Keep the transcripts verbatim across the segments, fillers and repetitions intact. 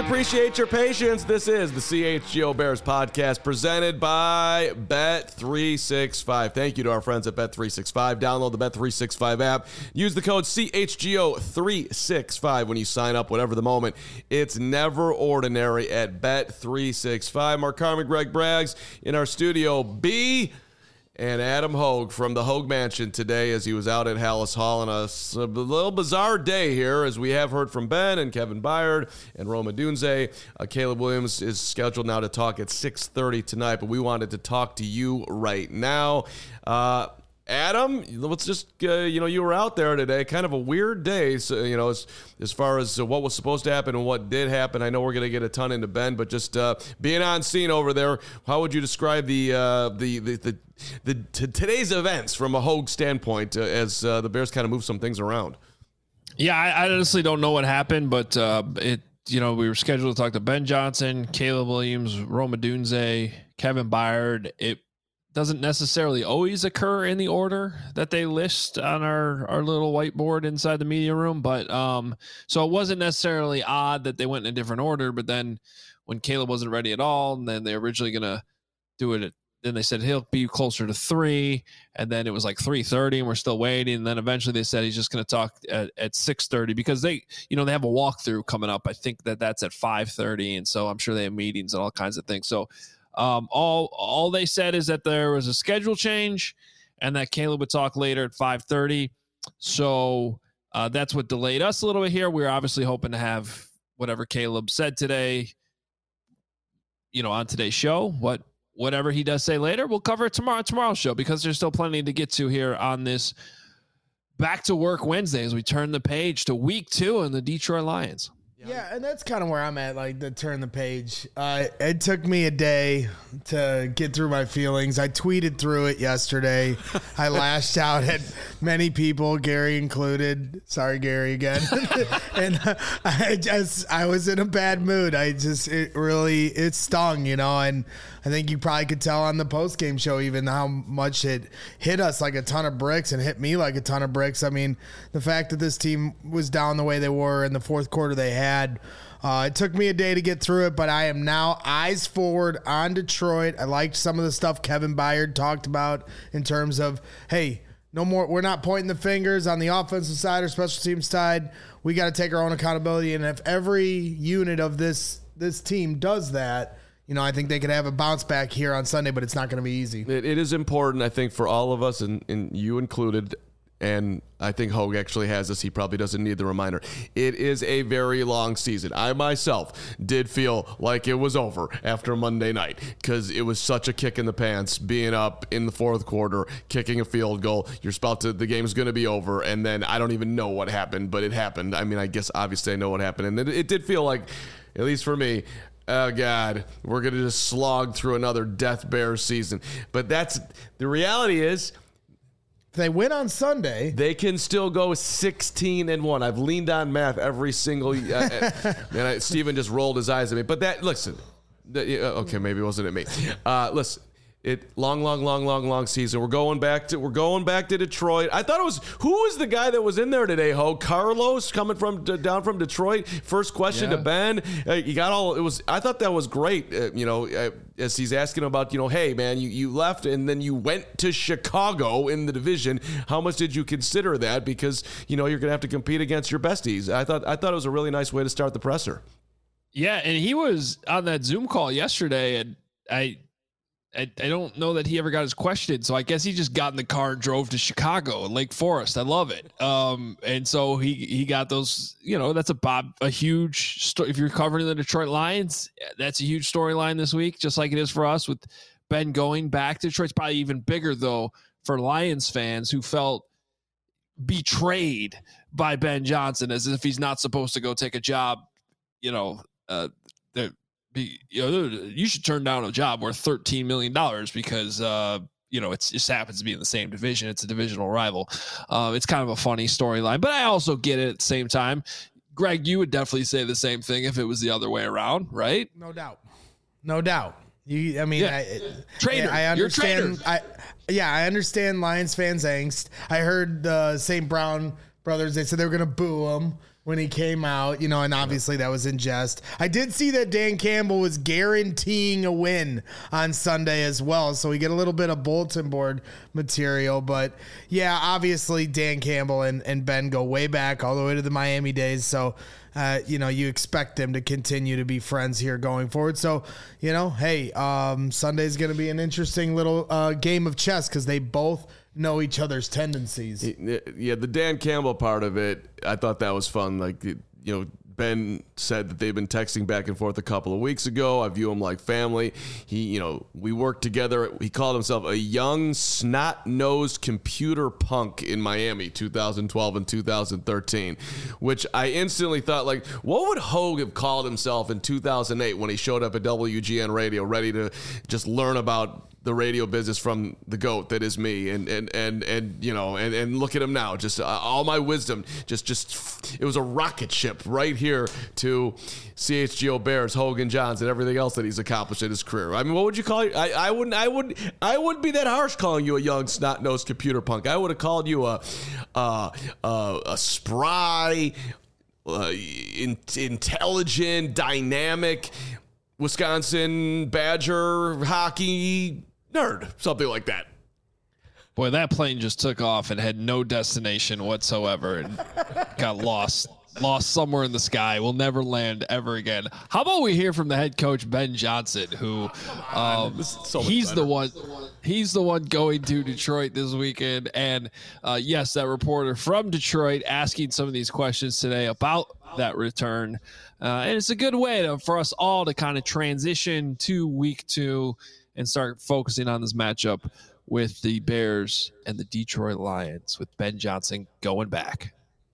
appreciate your patience. This is the C H G O Bears podcast presented by Bet three sixty-five. Thank you to our friends at Bet three sixty-five. Download the Bet three sixty-five app. Use the code C H G O three sixty-five when you sign up, whatever the moment. It's never ordinary at Bet three sixty-five. Mark Carmen, Greg Braggs in our studio B. And Adam Hogue from the Hogue Mansion today as he was out at Hallis Hall on a, a little bizarre day here, as we have heard from Ben and Kevin Byard and Rome Odunze. Uh, Caleb Williams is scheduled now to talk at six thirty tonight, but we wanted to talk to you right now. Uh, Adam, let's just, uh, you know, you were out there today, kind of a weird day, so, you know, as, as far as uh, what was supposed to happen and what did happen. I know we're going to get a ton into Ben, but just uh, being on scene over there, how would you describe the, uh, the, the, the, the t- today's events from a Hogue standpoint uh, as uh, the Bears kind of move some things around? Yeah, I, I honestly don't know what happened, but uh, it, you know, we were scheduled to talk to Ben Johnson, Caleb Williams, Rome Odunze, Kevin Byard. It doesn't necessarily always occur in the order that they list on our, our little whiteboard inside the media room. But um, so it wasn't necessarily odd that they went in a different order, but then when Caleb wasn't ready at all, and then they were originally going to do it at, then they said he'll be closer to three, and then it was like three thirty, and we're still waiting. And then eventually they said he's just going to talk at, at six thirty because they, you know, they have a walkthrough coming up. I think that that's at five thirty, and so I'm sure they have meetings and all kinds of things. So Um, all all they said is that there was a schedule change and that Caleb would talk later at five thirty. So uh, that's what delayed us a little bit here. We were obviously hoping to have whatever Caleb said today, you know, on today's show. What whatever he does say later, we'll cover it tomorrow tomorrow's show, because there's still plenty to get to here on this Back to Work Wednesday as we turn the page to week two in the Detroit Lions. Yeah, and that's kind of where I'm at, like the turn the page. Uh, it took me a day to get through my feelings. I tweeted through it yesterday. I lashed out at many people, Gary included. Sorry, Gary, again. and uh, I just, I was in a bad mood. I just, it really, it stung, you know, and I think you probably could tell on the post-game show even how much it hit us like a ton of bricks and hit me like a ton of bricks. I mean, the fact that this team was down the way they were in the fourth quarter they had, Uh, it took me a day to get through it, but I am now eyes forward on Detroit. I liked some of the stuff Kevin Byard talked about in terms of, hey, no more. We're not pointing the fingers on the offensive side or special teams side. We got to take our own accountability. And if every unit of this this team does that, you know, I think they could have a bounce back here on Sunday, but it's not going to be easy. It, it is important, I think, for all of us, and, and you included. And I think Hogue actually has this. He probably doesn't need the reminder. It is a very long season. I myself did feel like it was over after Monday night because it was such a kick in the pants being up in the fourth quarter, kicking a field goal. You're about to, the game's going to be over. And then I don't even know what happened, but it happened. I mean, I guess obviously I know what happened. And it, it did feel like, at least for me, oh, God, we're going to just slog through another Death Bears season. But that's, the reality is, they win on Sunday, they can still go sixteen and one. I've leaned on math every single uh, and I, Steven just rolled his eyes at me. But that, listen, the, okay, maybe it wasn't at me. Uh, listen, it long, long, long, long, long season. We're going back to we're going back to Detroit. I thought it was who was the guy that was in there today? Ho Carlos coming from down from Detroit. First question yeah. to Ben. Uh, you got all. It was. I thought that was great. Uh, you know, uh, as he's asking about, you know, hey man, you you left and then you went to Chicago in the division. How much did you consider that? Because you know you're going to have to compete against your besties. I thought I thought it was a really nice way to start the presser. Yeah, and he was on that Zoom call yesterday, and I. I, I don't know that he ever got his question, so I guess he just got in the car and drove to Chicago and Lake Forest. I love it. Um, and so he he got those. You know, that's a Bob a huge story. If you're covering the Detroit Lions, that's a huge storyline this week, just like it is for us with Ben going back to Detroit. It's probably even bigger though for Lions fans who felt betrayed by Ben Johnson, as if he's not supposed to go take a job. You know, uh, they're. Be, you know, you should turn down a job worth thirteen million dollars because, uh, you know, it's, it just happens to be in the same division. It's a divisional rival. Uh, it's kind of a funny storyline, but I also get it at the same time. Greg, you would definitely say the same thing if it was the other way around, right? No doubt. No doubt. You, I mean, yeah. I, trader. I understand. You're a trader. I, yeah, I understand Lions fans' angst. I heard the Saint Brown brothers. They said they were going to boo him when he came out, you know, and obviously that was in jest. I did see that Dan Campbell was guaranteeing a win on Sunday as well, so we get a little bit of bulletin board material. But, yeah, obviously Dan Campbell and, and Ben go way back all the way to the Miami days, so, uh, you know, you expect them to continue to be friends here going forward. So, you know, hey, um, Sunday's going to be an interesting little uh, game of chess because they both – know each other's tendencies. Yeah, the Dan Campbell part of it, I thought that was fun. Like, you know, Ben said that they've been texting back and forth a couple of weeks ago. I view him like family. He, you know, we worked together. He called himself a young, snot-nosed computer punk in Miami, two thousand twelve and two thousand thirteen, which I instantly thought, like, what would Hogue have called himself in two thousand eight when he showed up at W G N Radio ready to just learn about the radio business from the GOAT that is me, and and and and you know, and and look at him now, just uh, all my wisdom, just just it was a rocket ship right here to C H G O Bears, Hogan Johns, and everything else that he's accomplished in his career. I mean, what would you call you? I, I wouldn't, I would, I wouldn't be that harsh calling you a young snot-nosed computer punk. I would have called you a, uh, uh, a spry, uh, in, intelligent, dynamic Wisconsin Badger hockey nerd, something like that. Boy, that plane just took off and had no destination whatsoever and got lost. Lost somewhere in the sky. Will never land ever again. How about we hear from the head coach, Ben Johnson, who um, so he's better. the one he's the one going to Detroit this weekend. And uh, yes, that reporter from Detroit asking some of these questions today about that return. Uh, and it's a good way to, for us all to kind of transition to week two and start focusing on this matchup with the Bears and the Detroit Lions, with Ben Johnson going back.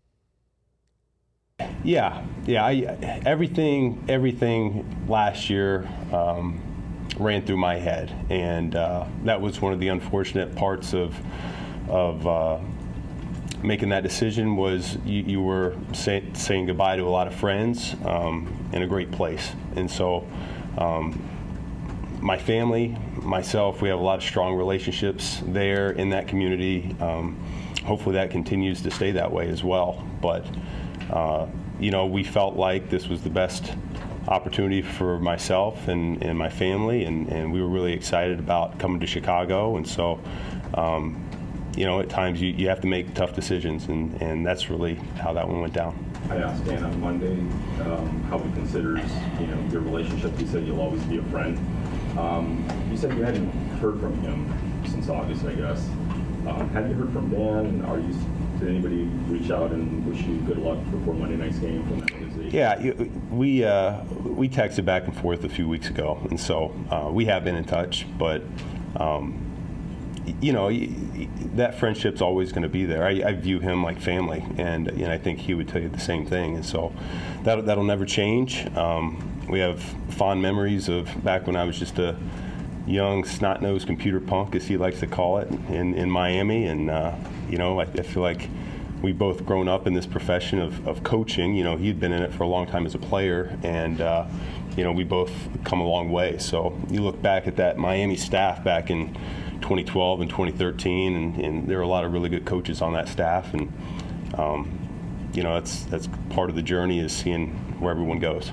Yeah, yeah. I, everything, everything last year um, ran through my head, and uh, that was one of the unfortunate parts of of uh, making that decision. Was you, you were say, saying goodbye to a lot of friends um, in a great place, and so. Um, My family, myself, we have a lot of strong relationships there in that community. Um, hopefully that continues to stay that way as well. But, uh, you know, we felt like this was the best opportunity for myself and, and my family, and, and we were really excited about coming to Chicago. And so, um, you know, at times you, you have to make tough decisions, and, and that's really how that one went down. I asked Dan on Monday um, how he considers, you know, your relationship. He said you'll always be a friend. Um, you said you hadn't heard from him since August, I guess. Um, have you heard from Dan? Are you? Did anybody reach out and wish you good luck before Monday night's game from that organization? Yeah, we uh, we texted back and forth a few weeks ago, and so uh, we have been in touch. But um, you know, that friendship's always going to be there. I, I view him like family, and you know, I think he would tell you the same thing. And so that that'll never change. Um, We have fond memories of back when I was just a young, snot-nosed computer punk, as he likes to call it, in, in Miami. And, uh, you know, I, I feel like we both grown up in this profession of, of coaching. You know, he'd been in it for a long time as a player, and, uh, you know, we both come a long way. So you look back at that Miami staff back in twenty twelve and twenty thirteen, and, and there were a lot of really good coaches on that staff. And, um, you know, that's, that's part of the journey, is seeing where everyone goes.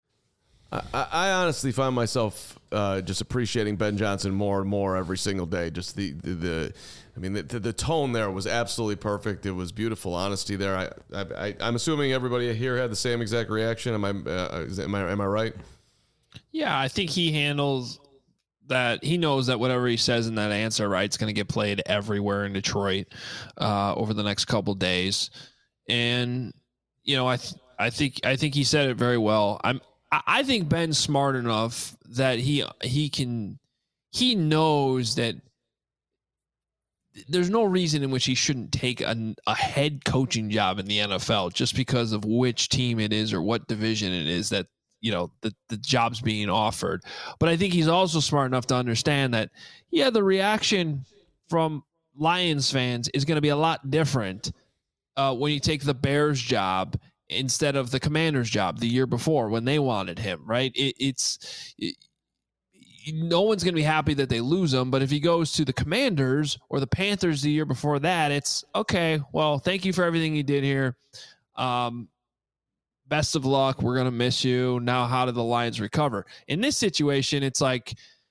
I, I honestly find myself uh, just appreciating Ben Johnson more and more every single day. Just the, the, the I mean, the, the tone there was absolutely perfect. It was beautiful honesty there. I, I, I'm assuming everybody here had the same exact reaction. Am I, uh, am I, am I right? Yeah, I think he handles that. He knows that whatever he says in that answer, right, it's going to get played everywhere in Detroit uh, over the next couple days. And, you know, I, th- I think, I think he said it very well. I'm, I think Ben's smart enough that he he can he knows that there's no reason in which he shouldn't take a, a head coaching job in the N F L just because of which team it is or what division it is that, you know, the, the job's being offered. But I think he's also smart enough to understand that, yeah, the reaction from Lions fans is going to be a lot different uh, when you take the Bears job instead of the Commanders job the year before when they wanted him, right? It, it's it, no one's going to be happy that they lose him. But if he goes to the Commanders or the Panthers the year before that, it's okay. Well, thank you for everything you did here. Um, best of luck. We're going to miss you. Now, how do the Lions recover? In this situation, it's like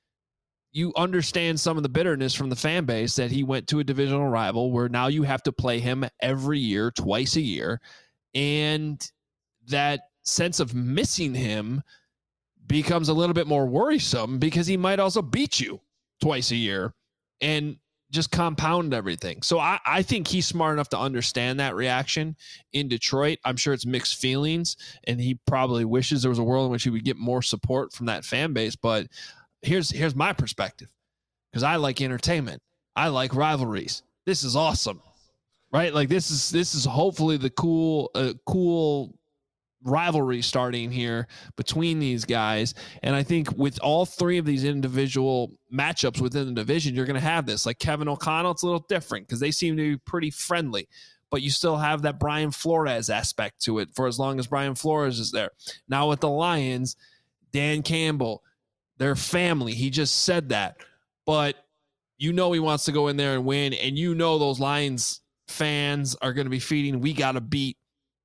you understand some of the bitterness from the fan base that he went to a divisional rival where now you have to play him every year, twice a year. And that sense of missing him becomes a little bit more worrisome because he might also beat you twice a year and just compound everything. So I, I think he's smart enough to understand that reaction in Detroit. I'm sure it's mixed feelings, and he probably wishes there was a world in which he would get more support from that fan base. But here's here's my perspective, because I like entertainment. I like rivalries. This is awesome, right? Like this is this is hopefully the cool uh, cool rivalry starting here between these guys. And I think with all three of these individual matchups within the division, you're going to have this. Like Kevin O'Connell, it's a little different because they seem to be pretty friendly, but you still have that Brian Flores aspect to it for as long as Brian Flores is there. Now with the Lions, Dan Campbell, their family, he just said that, but you know he wants to go in there and win, and you know those Lions fans are going to be feeding, we got to beat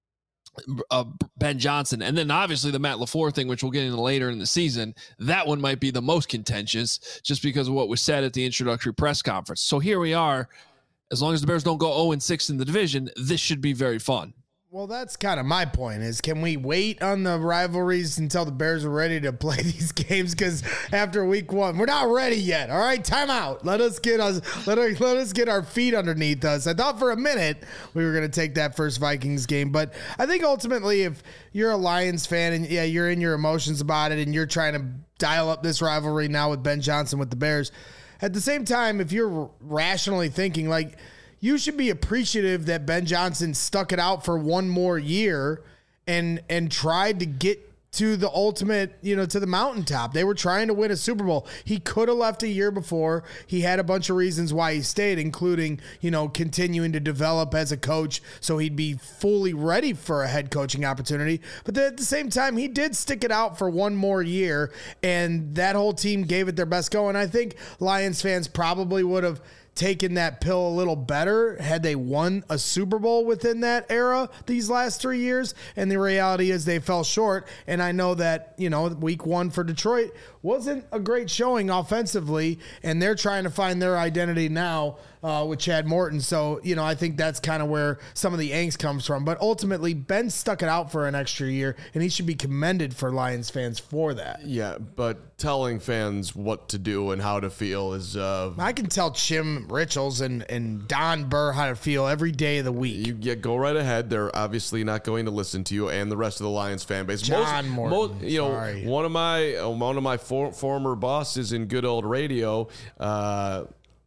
Uh, Ben Johnson. And then obviously the Matt LaFleur thing, which we'll get into later in the season, that one might be the most contentious just because of what was said at the introductory press conference. So here we are. As long as the Bears don't go oh and six in the division, this should be very fun. Well, that's kind of my point is, can we wait on the rivalries until the Bears are ready to play these games? Because after week one, we're not ready yet. All right, time out. Let us get us let us, let us get our feet underneath us. I thought for a minute we were going to take that first Vikings game, but I think ultimately if you're a Lions fan and yeah, you're in your emotions about it and you're trying to dial up this rivalry now with Ben Johnson with the Bears, at the same time, if you're rationally thinking like, you should be appreciative that Ben Johnson stuck it out for one more year and and tried to get to the ultimate, you know, to the mountaintop. They were trying to win a Super Bowl. He could have left a year before. He had a bunch of reasons why he stayed, including, you know, continuing to develop as a coach so he'd be fully ready for a head coaching opportunity. But then at the same time, he did stick it out for one more year, and that whole team gave it their best go. And I think Lions fans probably would have taken that pill a little better had they won a Super Bowl within that era these last three years. And the reality is they fell short. And I know that, you know, week one for Detroit wasn't a great showing offensively, and they're trying to find their identity now uh, with Chad Morton. So, you know, I think that's kind of where some of the angst comes from. But ultimately, Ben stuck it out for an extra year, and he should be commended for Lions fans for that. Yeah, but telling fans what to do and how to feel is... Uh, I can tell Jim Richels and, and Don Burr how to feel every day of the week. You yeah, go right ahead. They're obviously not going to listen to you and the rest of the Lions fan base. John most, Morton, most, you know, sorry. one of my uh, one of my for, former bosses in good old radio, uh,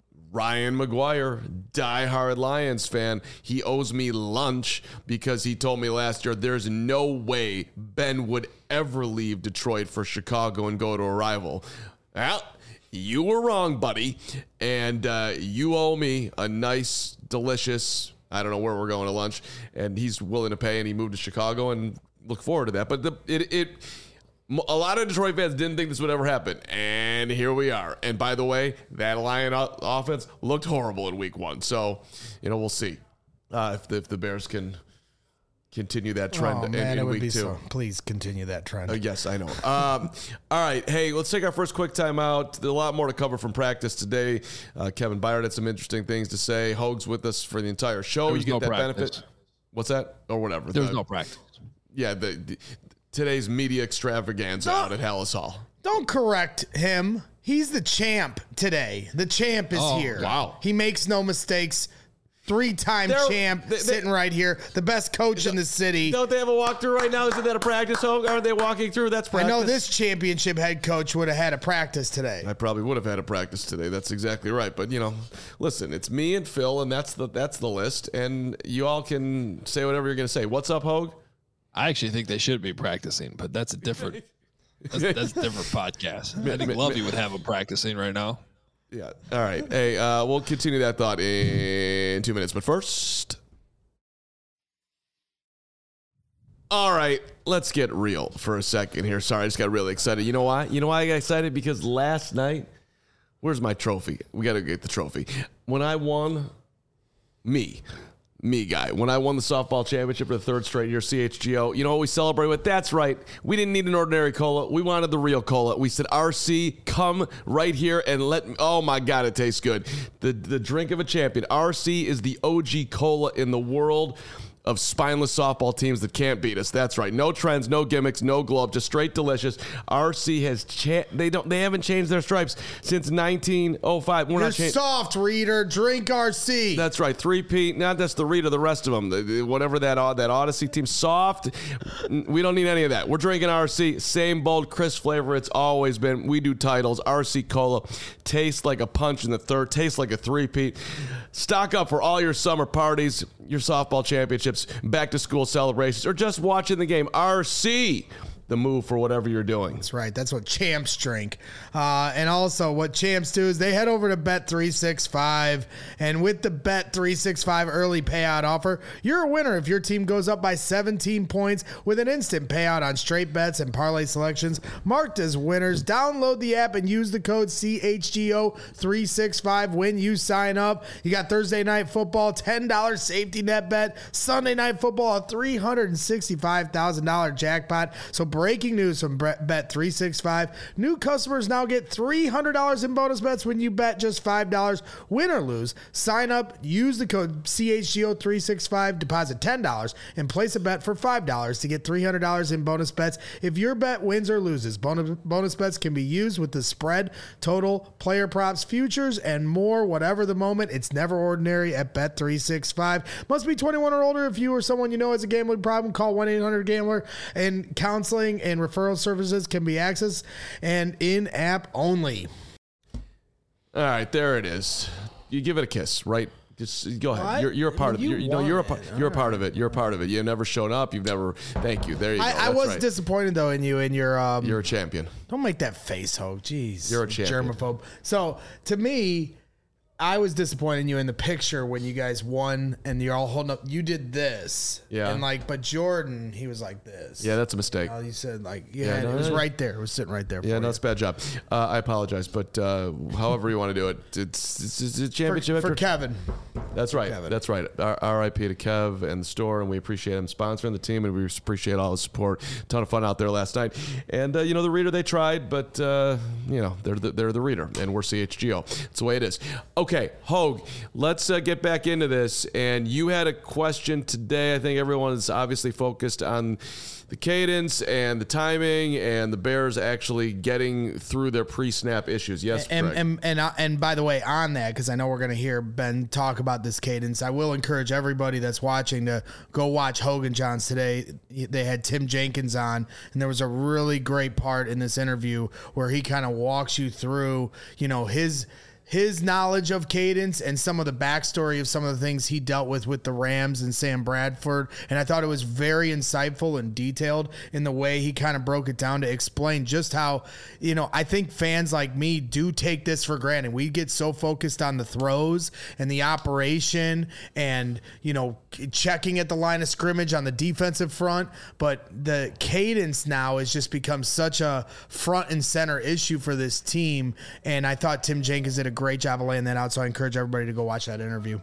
Ryan McGuire, diehard Lions fan. He owes me lunch because he told me last year there's no way Ben would ever leave Detroit for Chicago and go to a rival. Well, you were wrong, buddy. And uh, you owe me a nice, delicious, I don't know where we're going to lunch. And he's willing to pay, and he moved to Chicago, and look forward to that. But the, it, it, a lot of Detroit fans didn't think this would ever happen. And here we are. And by the way, that Lion offense looked horrible in week one. So, you know, we'll see uh, if, the, if the Bears can continue that trend oh, in, man, in it would week be two. So, please continue that trend. Uh, yes, I know. Um, all right. Hey, let's take our first quick time out. There's a lot more to cover from practice today. Uh, Kevin Byard had some interesting things to say. Hoag's with us for the entire show. There You was get no that practice. benefit. What's that? Or whatever. There was The- no practice. Yeah, the, the today's media extravaganza No. out at Hallis Hall. Don't correct him. He's the champ today. The champ is Oh, here. wow. He makes no mistakes. Three-time They're- champ they- they- sitting right here. The best coach in the city. Don't they have a walkthrough right now? Isn't that a practice, Hoag? Aren't they walking through? That's I practice. know this championship head coach would have had a practice today. I probably would have had a practice today. That's exactly right. But you know, listen, it's me and Phil, and that's the that's the list. And you all can say whatever you're going to say. What's up, Hoag? I actually think they should be practicing, but that's a different that's, that's a different podcast. I think Lovey would have them practicing right now. Yeah. All right. Hey, uh, we'll continue that thought in two minutes. But first, All right, let's get real for a second here. Sorry, I just got really excited. You know why? You know why I got excited? Because last night, where's my trophy? We got to get the trophy. When I won, me, me guy, when I won the softball championship for the third straight year, C H G O, you know what we celebrate with? That's right. We didn't need an ordinary cola. We wanted the real cola. We said, R C, come right here and let me. Oh, my God, it tastes good. The, the drink of a champion. R C is the O G cola in the world of spineless softball teams that can't beat us. That's right. No trends, no gimmicks, no glow up, just straight delicious. R C has cha- they don't they haven't changed their stripes since nineteen oh five. We're You're not changing. soft, reader. Drink R C. That's right. Three-peat, not just the Rita, the rest of them. The, the, whatever that that Odyssey team, soft. We don't need any of that. We're drinking R C. Same bold, crisp flavor it's always been. We do titles. R C Cola tastes like a punch in the third. Tastes like a three-peat. Stock up for all your summer parties, your softball championships, back-to-school celebrations, or just watching the game. R C, the move for whatever you're doing. That's right. That's what champs drink. Uh, and also what champs do is they head over to Bet three sixty-five. And with the Bet three sixty-five early payout offer, you're a winner if your team goes up by seventeen points with an instant payout on straight bets and parlay selections marked as winners. Download the app and use the code C H G O three sixty-five when you sign up. You got Thursday night football, ten dollars safety net bet. Sunday night football, a three hundred sixty-five thousand dollars jackpot. So breaking news from Bet three sixty-five. New customers now get three hundred dollars in bonus bets when you bet just five dollars. Win or lose, sign up, use the code C H G O three sixty-five, deposit ten dollars, and place a bet for five dollars to get three hundred dollars in bonus bets if your bet wins or loses. Bonus, bonus bets can be used with the spread, total, player props, futures, and more. Whatever the moment, it's never ordinary at Bet three sixty-five. Must be twenty-one or older. If you or someone you know has a gambling problem, call one eight hundred gambler, and counseling and referral services can be accessed and in-app only. All right, there it is. You give it a kiss, right? Just go ahead. What? You're, you're a part of it. You You're, you know, you're a won part. it. You're a All part right. of it. You're a part of it. You've never shown up. You've never. Thank you. There you go. I, I That's was right. disappointed though in you and your. Um, You're a champion. don't make that face, Ho. Jeez, You're a champion. germaphobe. So to me, I was disappointed in you in the picture when you guys won and you're all holding up. You did this, Yeah. and like, but Jordan, he was like this. Yeah, that's a mistake. Oh, you said like, yeah, Yeah, and no, it was no. right there. It was sitting right there. Yeah, for no, you. it's a bad job. Uh, I apologize, but uh, however you want to do it, it's, it's, it's a championship. for, for after- Kevin. That's right. Kevin. That's right. R- R.I.P. to Kev and the store, and we appreciate him sponsoring the team, and we appreciate all the support. Ton of fun out there last night, and uh, you know the Reader, they tried, but uh, you know they're the, they're the Reader, and we're C H G O. It's the way it is. Okay, Hogue, let's uh, get back into this. And you had a question today. I think everyone is obviously focused on the cadence and the timing, and the Bears actually getting through their pre-snap issues. Yes, And Greg. and and, uh, and by the way, on that, because I know we're going to hear Ben talk about this cadence, I will encourage everybody that's watching to go watch Hogan Johns today. They had Tim Jenkins on, and there was a really great part in this interview where he kind of walks you through, you know, his his knowledge of cadence and some of the backstory of some of the things he dealt with with the Rams and Sam Bradford. And I thought it was very insightful and detailed in the way he kind of broke it down to explain just how, you know, I think fans like me do take this for granted. We get so focused on the throws and the operation and, you know, checking at the line of scrimmage on the defensive front. But the cadence now has just become such a front and center issue for this team. And I thought Tim Jenkins did a great job of laying that out. So I encourage everybody to go watch that interview.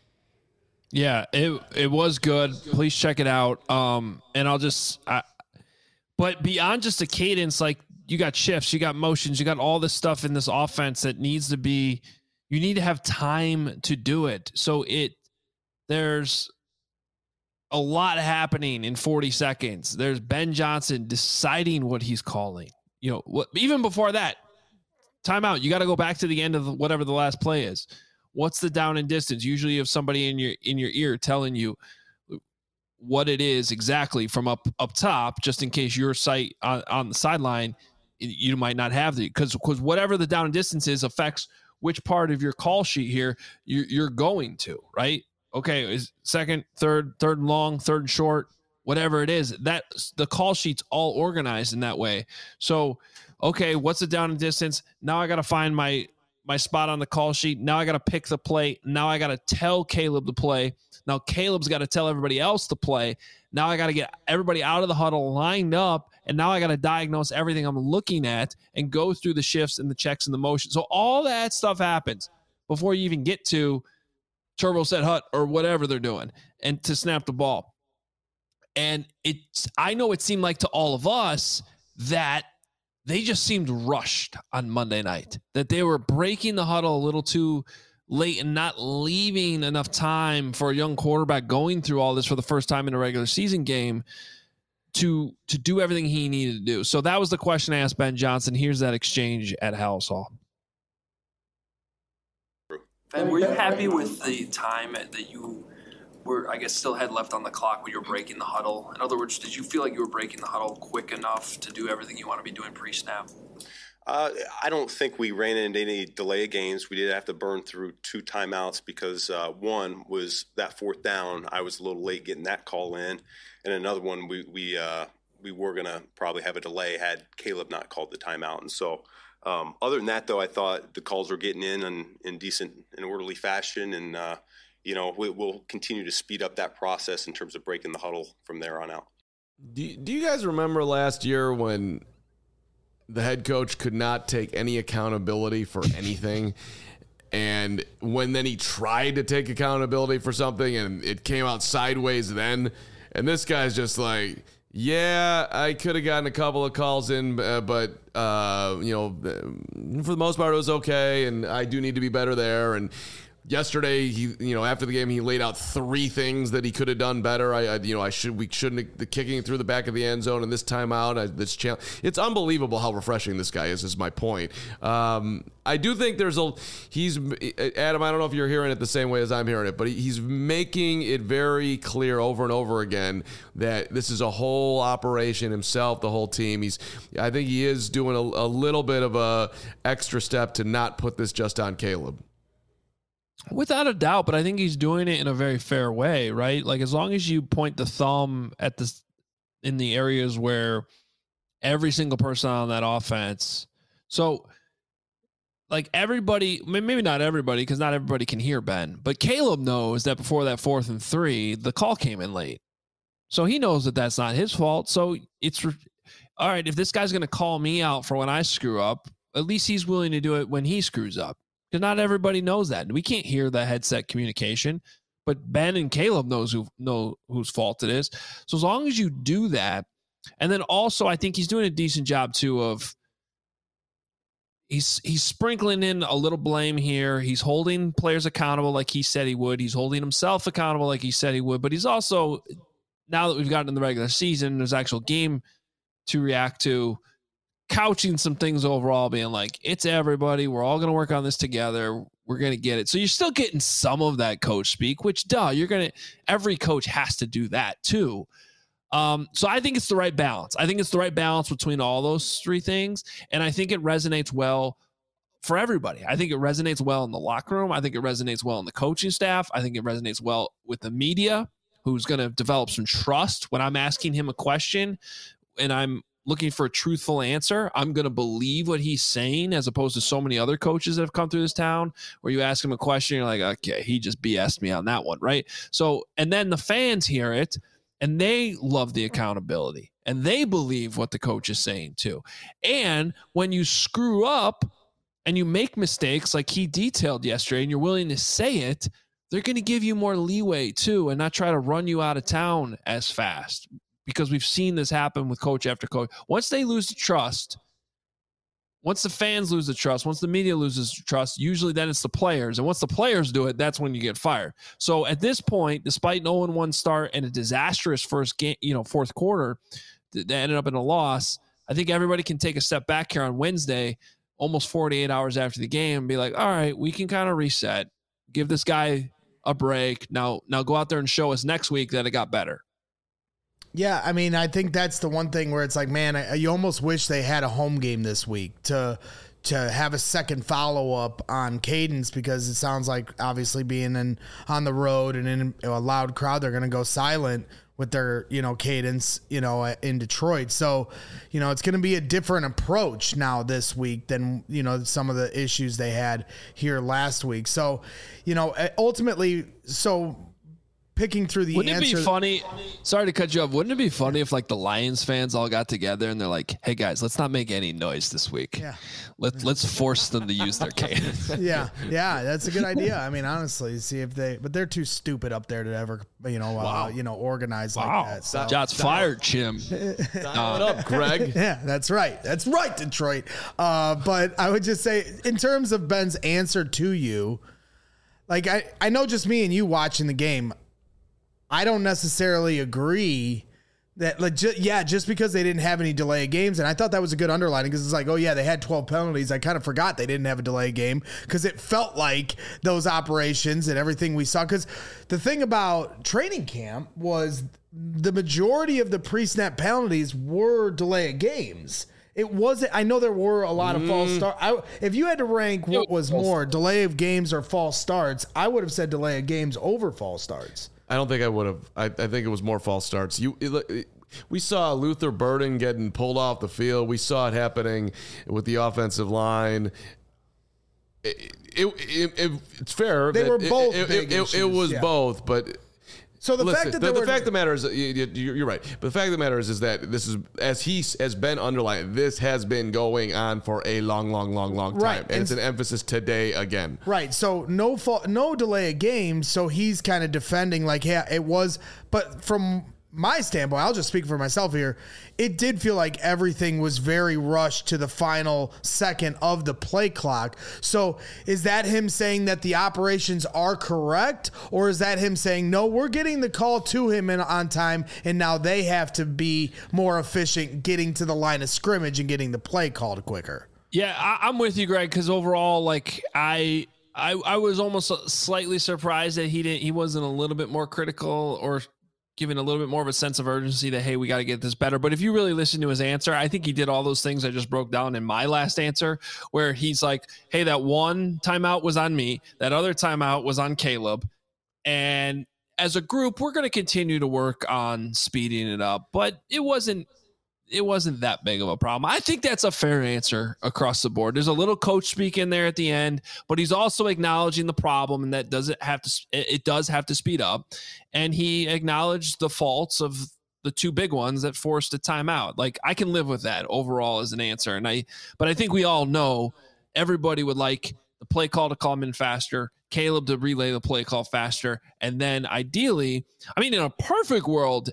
Yeah, it it was good. Please check it out. Um, and I'll just, I, but beyond just the cadence, like you got shifts, you got motions, you got all this stuff in this offense that needs to be. You need to have time to do it. So it there's a lot happening in forty seconds. There's Ben Johnson deciding what he's calling. You know, what even before that, timeout. You got to go back to the end of the, whatever the last play is. What's the down and distance? Usually you have somebody in your in your ear telling you what it is exactly from up up top, just in case your sight on, on the sideline, you might not have the because because whatever the down and distance is affects which part of your call sheet here you're, you're going to, right? Okay, is second, third, third and long, third and short, whatever it is, that the call sheet's all organized in that way. So, okay, what's the down and distance? Now I got to find my my spot on the call sheet. Now I got to pick the play. Now I got to tell Caleb to play. Now Caleb's got to tell everybody else to play. Now I got to get everybody out of the huddle lined up. And now I got to diagnose everything I'm looking at and go through the shifts and the checks and the motion. So all that stuff happens before you even get to turbo set hut or whatever they're doing and to snap the ball. And it's, I know it seemed like to all of us that they just seemed rushed on Monday night, that they were breaking the huddle a little too late and not leaving enough time for a young quarterback going through all this for the first time in a regular season game to to do everything he needed to do. So that was the question I asked Ben Johnson. Here's that exchange at Halas Hall. Ben, were you happy with the time that you were, I guess, still had left on the clock when you were breaking the huddle? In other words, did you feel like you were breaking the huddle quick enough to do everything you want to be doing pre-snap? Uh, I don't think we ran into any delay of games. We did have to burn through two timeouts because uh, one was that fourth down. I was a little late getting that call in, and another one we we uh, we were gonna probably have a delay had Caleb not called the timeout. And so, um, other than that, though, I thought the calls were getting in in, in decent and orderly fashion, and uh, you know we, we'll continue to speed up that process in terms of breaking the huddle from there on out. Do Do you guys remember last year when the head coach could not take any accountability for anything? And when then he tried to take accountability for something and it came out sideways then, and this guy's just like, yeah, I could have gotten a couple of calls in, uh, but, uh, you know, for the most part, it was okay. And I do need to be better there. And yesterday, he, you know, after the game, he laid out three things that he could have done better. I, I you know, I should, we shouldn't, the kicking through the back of the end zone and this timeout, I, this challenge. It's unbelievable how refreshing this guy is, is my point. Um, I do think there's a, he's, Adam, I don't know if you're hearing it the same way as I'm hearing it, but he's making it very clear over and over again that this is a whole operation, himself, the whole team. He's, I think he is doing a, a little bit of a extra step to not put this just on Caleb. Without a doubt, but I think he's doing it in a very fair way, right? Like, as long as you point the thumb at this in the areas where every single person on that offense. So, like, everybody, maybe not everybody, because not everybody can hear Ben, but Caleb knows that before that fourth and three, the call came in late. So he knows that that's not his fault. So it's, all right, if this guy's going to call me out for when I screw up, at least he's willing to do it when he screws up. Because not everybody knows that. We can't hear the headset communication, but Ben and Caleb knows who know whose fault it is. So as long as you do that, and then also I think he's doing a decent job too of he's he's sprinkling in a little blame here. He's holding players accountable like he said he would. He's holding himself accountable like he said he would. But he's also, now that we've gotten in the regular season, there's actual game to react to, couching some things overall, being like, it's everybody. We're all going to work on this together. We're going to get it. So you're still getting some of that coach speak, which, duh, you're going to, every coach has to do that too. Um, so I think it's the right balance. I think it's the right balance between all those three things. And I think it resonates well for everybody. I think it resonates well in the locker room. I think it resonates well in the coaching staff. I think it resonates well with the media, who's going to develop some trust when I'm asking him a question and I'm looking for a truthful answer. I'm going to believe what he's saying, as opposed to so many other coaches that have come through this town where you ask him a question, you're like, okay, he just B S'd me on that one, right? So, and then the fans hear it and they love the accountability and they believe what the coach is saying too. And when you screw up and you make mistakes like he detailed yesterday and you're willing to say it, they're going to give you more leeway too and not try to run you out of town as fast. Because we've seen this happen with coach after coach. Once they lose the trust, once the fans lose the trust, once the media loses trust, usually then it's the players. And once the players do it, that's when you get fired. So at this point, despite an oh and one start and a disastrous first game, you know, fourth quarter that ended up in a loss, I think everybody can take a step back here on Wednesday, almost forty-eight hours after the game, and be like, all right, we can kind of reset, give this guy a break. Now, now go out there and show us next week that it got better. Yeah, I mean, I think that's the one thing where it's like, man, I, you almost wish they had a home game this week to to have a second follow up on cadence, because it sounds like obviously being in on the road and in a loud crowd, they're going to go silent with their, you know, cadence, you know, in Detroit. So, you know, it's going to be a different approach now this week than, you know, some of the issues they had here last week. So, you know, ultimately, so picking through the Wouldn't answer. it be funny? Sorry to cut you off. Wouldn't it be funny if like the Lions fans all got together and they're like, "Hey guys, let's not make any noise this week. Yeah. Let's let's force them to use their cadence." Yeah, yeah, that's a good idea. I mean, honestly, see if they, but they're too stupid up there to ever, you know, Wow. uh, you know, organize Wow. like that. So. Shots fired, Chim. Dial it up, Greg. Yeah, that's right. That's right, Detroit. Uh, but I would just say, in terms of Ben's answer to you, like I, I know just me and you watching the game, I don't necessarily agree that, like, ju- yeah, just because they didn't have any delay of games. And I thought that was a good underlining, because it's like, oh, yeah, they had twelve penalties. I kind of forgot they didn't have a delay game, because it felt like those operations and everything we saw. Because the thing about training camp was the majority of the pre-snap penalties were delay of games. It wasn't. I know there were a lot of false starts. I, if you had to rank what was more, delay of games or false starts, I would have said delay of games over false starts. I don't think I would have. I, I think it was more false starts. You, it, it, we saw Luther Burden getting pulled off the field. We saw it happening with the offensive line. It, it, it, it, it's fair. They that were it, both It, big it, it, issues, it was yeah. both, but. So the Listen, fact that the, there the were, fact of the matter is, you, you, you're right. But the fact of the matter is, is that this is, as he has been underlined, this has been going on for a long, long, long, long time, Right. and, And it's an emphasis today again. right. So no fault, no delay of games. So he's kind of defending like, yeah, it was. But from my standpoint, I'll just speak for myself here. It did feel like everything was very rushed to the final second of the play clock. So is that him saying that the operations are correct, or is that him saying, no, we're getting the call to him in, on time, and now they have to be more efficient getting to the line of scrimmage and getting the play called quicker? Yeah, I, I'm with you, Greg, because overall, like I, I, I was almost slightly surprised that he didn't, he wasn't a little bit more critical or giving a little bit more of a sense of urgency that, hey, we got to get this better. But if you really listen to his answer, I think he did all those things I just broke down in my last answer, where he's like, hey, that one timeout was on me. That other timeout was on Caleb. And as a group, we're going to continue to work on speeding it up. But it wasn't, it wasn't that big of a problem. I think that's a fair answer across the board. There's a little coach speak in there at the end, but he's also acknowledging the problem, and that doesn't have to, it does have to speed up. And he acknowledged the faults of the two big ones that forced a timeout. Like, I can live with that overall as an answer. And I, but I think we all know everybody would like the play call to come in faster, Caleb to relay the play call faster. And then ideally, I mean, in a perfect world,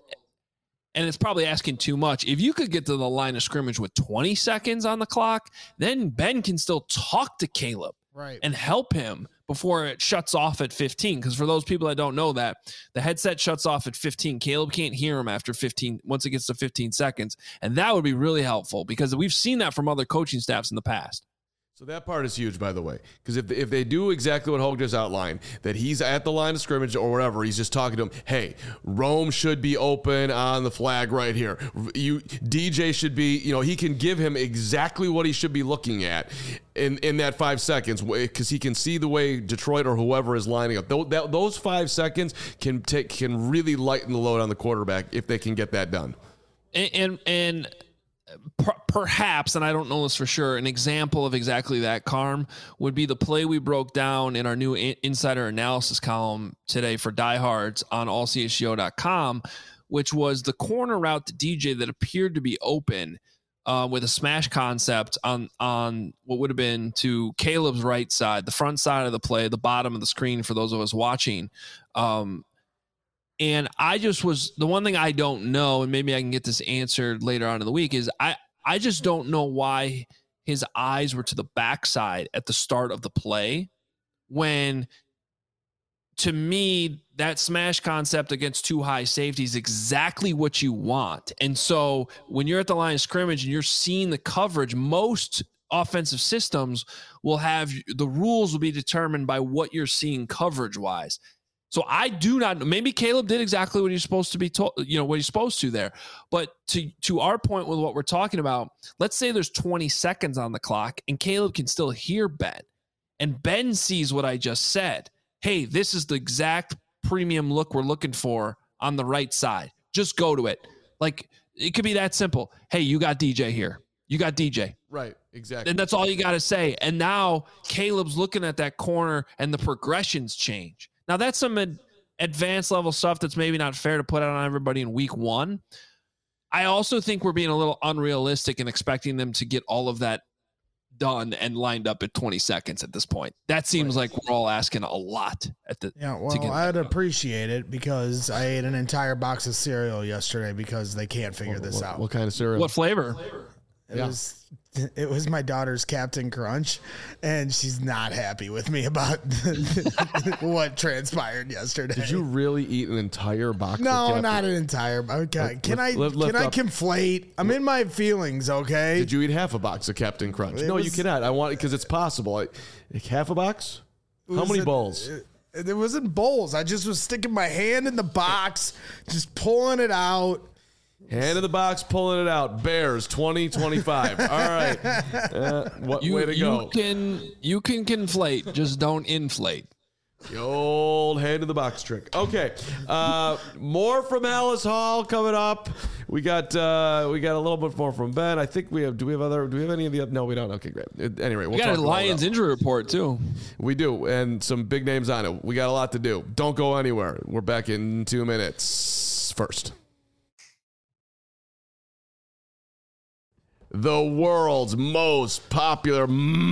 and it's probably asking too much, if you could get to the line of scrimmage with twenty seconds on the clock, then Ben can still talk to Caleb Right. and help him before it shuts off at fifteen. Because for those people that don't know that, the headset shuts off at fifteen. Caleb can't hear him after fifteen, once it gets to fifteen seconds. And that would be really helpful, because we've seen that from other coaching staffs in the past. So that part is huge, by the way, because if, if they do exactly what Hogue just outlined, that he's at the line of scrimmage or whatever, he's just talking to him, hey, Rome should be open on the flag right here. You D J should be, you know, he can give him exactly what he should be looking at in, in that five seconds, because he can see the way Detroit or whoever is lining up. Those, that, those five seconds can take can really lighten the load on the quarterback if they can get that done. And and, and per, perhaps, and I don't know this for sure, an example of exactly that, Carm, would be the play we broke down in our new in, insider analysis column today for diehards on all c h g o dot com, which was the corner route to D J that appeared to be open uh, with a smash concept on on what would have been to Caleb's right side, the front side of the play, the bottom of the screen for those of us watching. Um, And I just was, the one thing I don't know, and maybe I can get this answered later on in the week, is I, I just don't know why his eyes were to the backside at the start of the play, when to me, that smash concept against two high safety is exactly what you want. And so when you're at the line of scrimmage and you're seeing the coverage, most offensive systems will have, the rules will be determined by what you're seeing coverage wise. So I do not, maybe Caleb did exactly what he's supposed to be told, you know, what he's supposed to there. But to, to our point with what we're talking about, let's say there's twenty seconds on the clock and Caleb can still hear Ben. And Ben sees what I just said. Hey, this is the exact premium look we're looking for on the right side. Just go to it. Like, it could be that simple. Hey, you got D J here. You got D J. Right, exactly. And that's all you got to say. And now Caleb's looking at that corner and the progressions change. Now, that's some ad- advanced level stuff that's maybe not fair to put out on everybody in week one. I also think we're being a little unrealistic in expecting them to get all of that done and lined up at twenty seconds at this point. That seems right. like we're all asking a lot at the yeah well I'd appreciate it because I ate an entire box of cereal yesterday because they can't figure what, this what, out. What kind of cereal? What flavor? It yeah. was it was my daughter's Captain Crunch, and she's not happy with me about what transpired yesterday. Did you really eat an entire box? No, of Captain? not an entire. Okay, Lift, can I lift, lift can I up. conflate? I'm in my feelings. Okay. Did you eat half a box of Captain Crunch? It no, was, you cannot. I want because it's possible. I, half a box? How was many it, bowls? It, it wasn't bowls. I just was sticking my hand in the box, just pulling it out. Hand in the box, pulling it out. Bears twenty twenty-five. All right. Uh, what You, way to you go. can you can conflate, just don't inflate. The old hand in the box trick. Okay. Uh, more from Alice Hall coming up. We got uh, we got a little bit more from Ben. I think we have. Do we have other? Do we have any of the? No, we don't. Okay, great. Uh, Anyway, we'll We got talk a about Lions that. injury report too. We do, and some big names on it. We got a lot to do. Don't go anywhere. We're back in two minutes. First. The world's most popular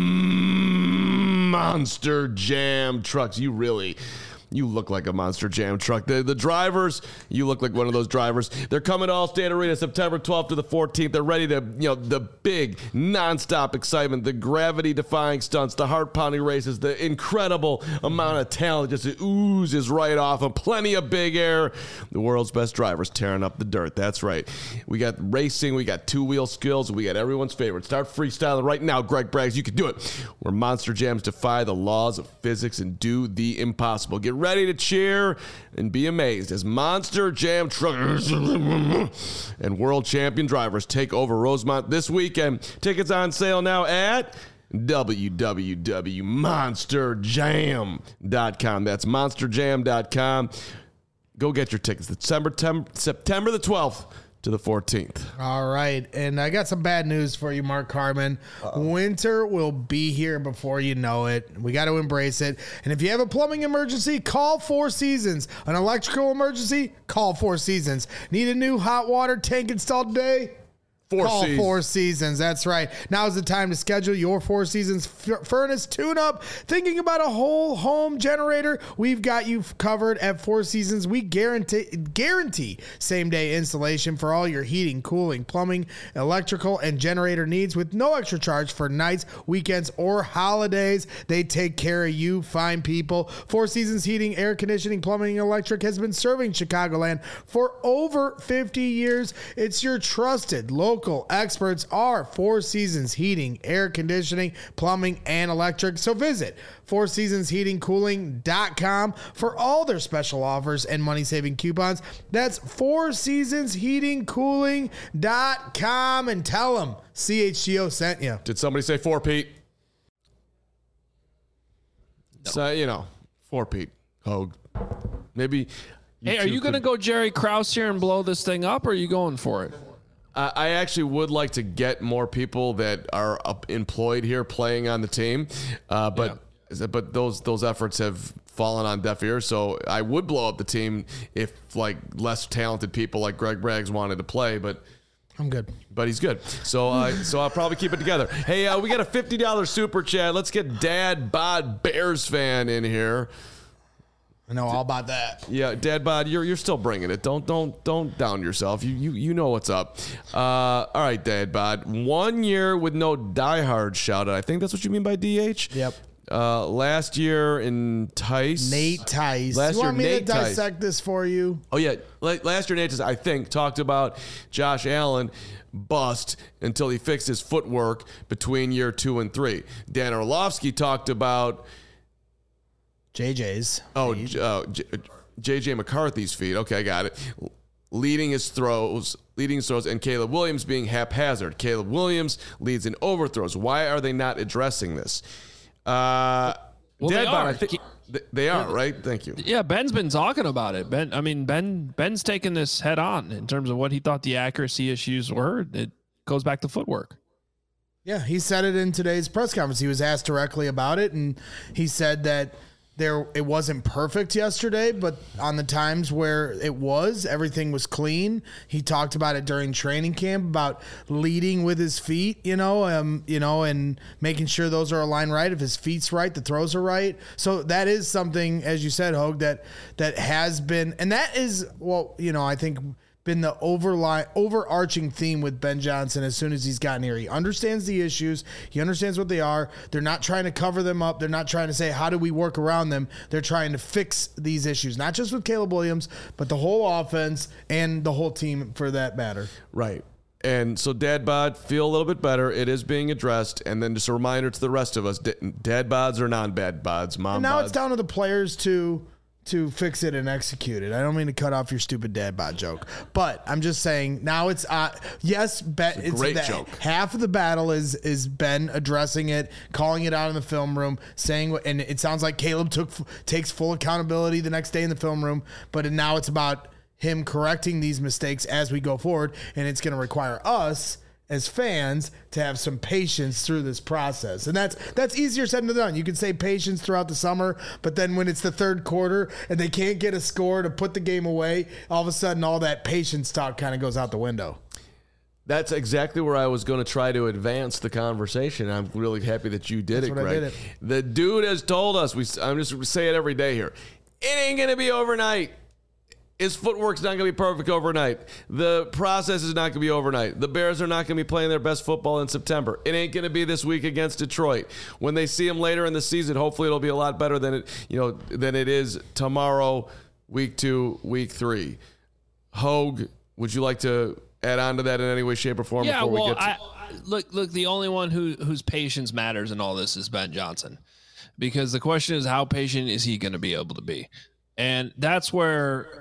Monster Jam trucks. You really, you look like a Monster Jam truck. The, the drivers, you look like one of those drivers. They're coming to Allstate Arena September twelfth to the fourteenth. They're ready to, you know, the big nonstop excitement, the gravity-defying stunts, the heart-pounding races, the incredible amount of talent just oozes right off them. Plenty of big air. The world's best drivers tearing up the dirt. That's right. We got racing. We got two-wheel skills. We got everyone's favorite. Start freestyling right now, Greg Braggs. You can do it. Where Monster Jams defy the laws of physics and do the impossible. Get ready to cheer and be amazed as Monster Jam truckers and world champion drivers take over Rosemont this weekend. Tickets on sale now at w w w dot monster jam dot com. That's monster jam dot com. Go get your tickets. September, September the twelfth to the fourteenth. All right. And I got some bad news for you, Mark Carman. Uh-oh. Winter will be here before you know it. We got to embrace it. And if you have a plumbing emergency, call Four Seasons. An electrical emergency, call Four Seasons. Need a new hot water tank installed today? Four Call Seasons. Four Seasons. That's right. Now is the time to schedule your Four Seasons f- furnace tune-up. Thinking about a whole home generator? We've got you covered at Four Seasons. We guarantee guarantee same-day installation for all your heating, cooling, plumbing, electrical, and generator needs with no extra charge for nights, weekends, or holidays. They take care of you fine people. Four Seasons Heating, Air Conditioning, Plumbing, and Electric has been serving Chicagoland for over fifty years. It's your trusted local Local experts are Four Seasons Heating, Air Conditioning, Plumbing, and Electric. So visit four seasons heating cooling dot com for all their special offers and money-saving coupons. That's four seasons heating cooling dot com and tell them C H G O sent you. Did somebody say four, Pete? No. So, you know, four, Pete. Hogue. Maybe. Hey, are you going to go Jerry Krause here and blow this thing up, or are you going for it? Uh, I actually would like to get more people that are up employed here playing on the team, uh, but yeah. but those those efforts have fallen on deaf ears. So I would blow up the team if like less talented people like Greg Braggs wanted to play, but. I'm good. But he's good. So uh, so I'll probably keep it together. Hey, uh, we got a fifty dollars super chat. Let's get Dad Bod Bears fan in here. I know all about that. Yeah, Dad Bod, you're you're still bringing it. Don't don't don't down yourself. You you you know what's up. Uh, all right, Dad Bod. One year with no diehard shout out. I think that's what you mean by D H. Yep. Uh, last year in Tice. Nate Tice. Last you want year, me Nate to Tice. dissect this for you? Oh, yeah. Last year, Nate Tice, I think, talked about Josh Allen bust until he fixed his footwork between year two and three. Dan Orlovsky talked about J J's. Oh, uh, J J McCarthy's feet. Okay, I got it. Leading his throws, leading his throws, and Caleb Williams being haphazard. Caleb Williams leads in overthrows. Why are they not addressing this? Uh, well, they Deadbot, are. I think they are, right? Thank you. Yeah, Ben's been talking about it. Ben, I mean, Ben, Ben's taken this head on in terms of what he thought the accuracy issues were. It goes back to footwork. Yeah, he said it in today's press conference. He was asked directly about it, and he said that there it wasn't perfect yesterday, but on the times where it was, everything was clean. He talked about it during training camp about leading with his feet, you know, um, you know, and making sure those are aligned right. If his feet's right, the throws are right. So that is something, as you said, Hogue, that that has been, and that is, well, you know, I think been the overline, overarching theme with Ben Johnson as soon as he's gotten here. He understands the issues. He understands what they are. They're not trying to cover them up. They're not trying to say, how do we work around them? They're trying to fix these issues, not just with Caleb Williams, but the whole offense and the whole team for that matter. Right. And so dad bod, feel a little bit better. It is being addressed. And then just a reminder to the rest of us, dad bods are non-bad bods, mom and now bods. It's down to the players to to fix it and execute it. I don't mean to cut off your stupid dad bod joke, but I'm just saying now it's, uh, yes, Ben, it's a great it's joke. Half of the battle is, is Ben addressing it, calling it out in the film room, saying what, and it sounds like Caleb took, takes full accountability the next day in the film room, but now it's about him correcting these mistakes as we go forward. And it's going to require us as fans to have some patience through this process. And that's that's easier said than done. You can say patience throughout the summer, but then when it's the third quarter and they can't get a score to put the game away, all of a sudden all that patience talk kind of goes out the window. That's exactly where I was going to try to advance the conversation. I'm really happy that you did That's it, what I Greg. did it. The dude has told us, we, I'm just going to say it every day here, it ain't going to be overnight. His footwork's not going to be perfect overnight. The process is not going to be overnight. The Bears are not going to be playing their best football in September. It ain't going to be this week against Detroit. When they see him later in the season, hopefully it'll be a lot better than it, you know, than it is tomorrow, week two, week three. Hogue, would you like to add on to that in any way, shape, or form? Yeah, before well, we get to- I, look, look. The only one who whose patience matters in all this is Ben Johnson, because the question is, how patient is he going to be able to be? And that's where.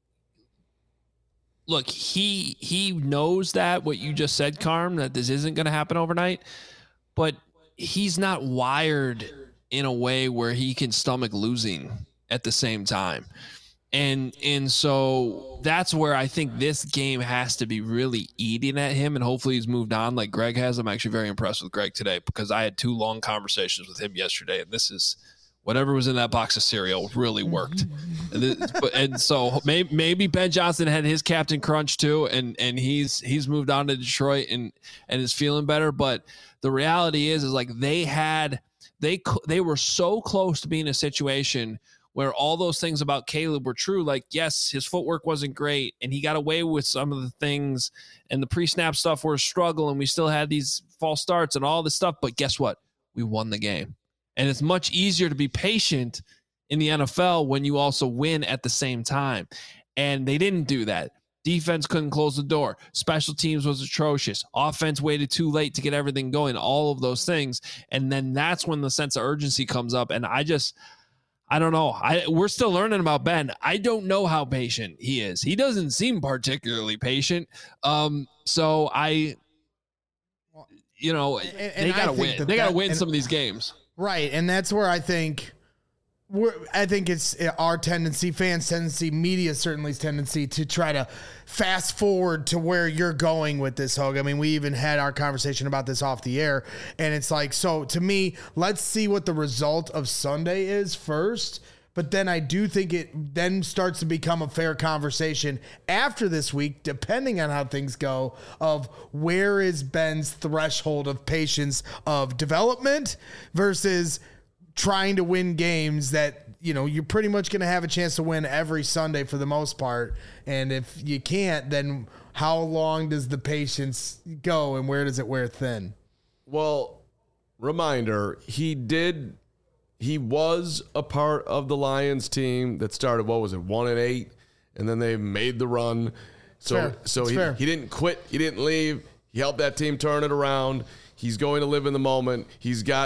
Look, he he knows that what you just said, Carm, that this isn't going to happen overnight, but he's not wired in a way where he can stomach losing at the same time. And and so that's where I think this game has to be really eating at him, and hopefully he's moved on like Greg has. I'm actually very impressed with Greg today because I had two long conversations with him yesterday, and this is whatever was in that box of cereal really worked. And, this, but, and so maybe, maybe Ben Johnson had his captain crunch too, and and he's he's moved on to Detroit and and is feeling better. But the reality is, is like they had they they were so close to being in a situation where all those things about Caleb were true. Like, yes, his footwork wasn't great, and he got away with some of the things, and the pre-snap stuff were a struggle, and we still had these false starts and all this stuff. But guess what? We won the game. And it's much easier to be patient in the N F L when you also win at the same time. And they didn't do that. Defense couldn't close the door. Special teams was atrocious. Offense waited too late to get everything going, all of those things. And then that's when the sense of urgency comes up. And I just, I don't know. I We're still learning about Ben. I don't know how patient he is. He doesn't seem particularly patient. Um, so I, you know, And- they and I got to think win. that They got to that- win and- some of these games. Right, and that's where I think we're, I think it's our tendency, fans' tendency, media certainly's tendency to try to fast forward to where you're going with this, Hogue. I mean, we even had our conversation about this off the air, and it's like, so to me, let's see what the result of Sunday is first. But then I do think it then starts to become a fair conversation after this week, depending on how things go, of where is Ben's threshold of patience of development versus trying to win games that, you know, you're pretty much going to have a chance to win every Sunday for the most part. And if you can't, then how long does the patience go and where does it wear thin? Well, reminder, he did... He was a part of the Lions team that started, what was it, one and eight, and then they made the run. So, Fair. so It's he, fair. he didn't quit. He didn't leave. He helped that team turn it around. He's going to live in the moment. He's got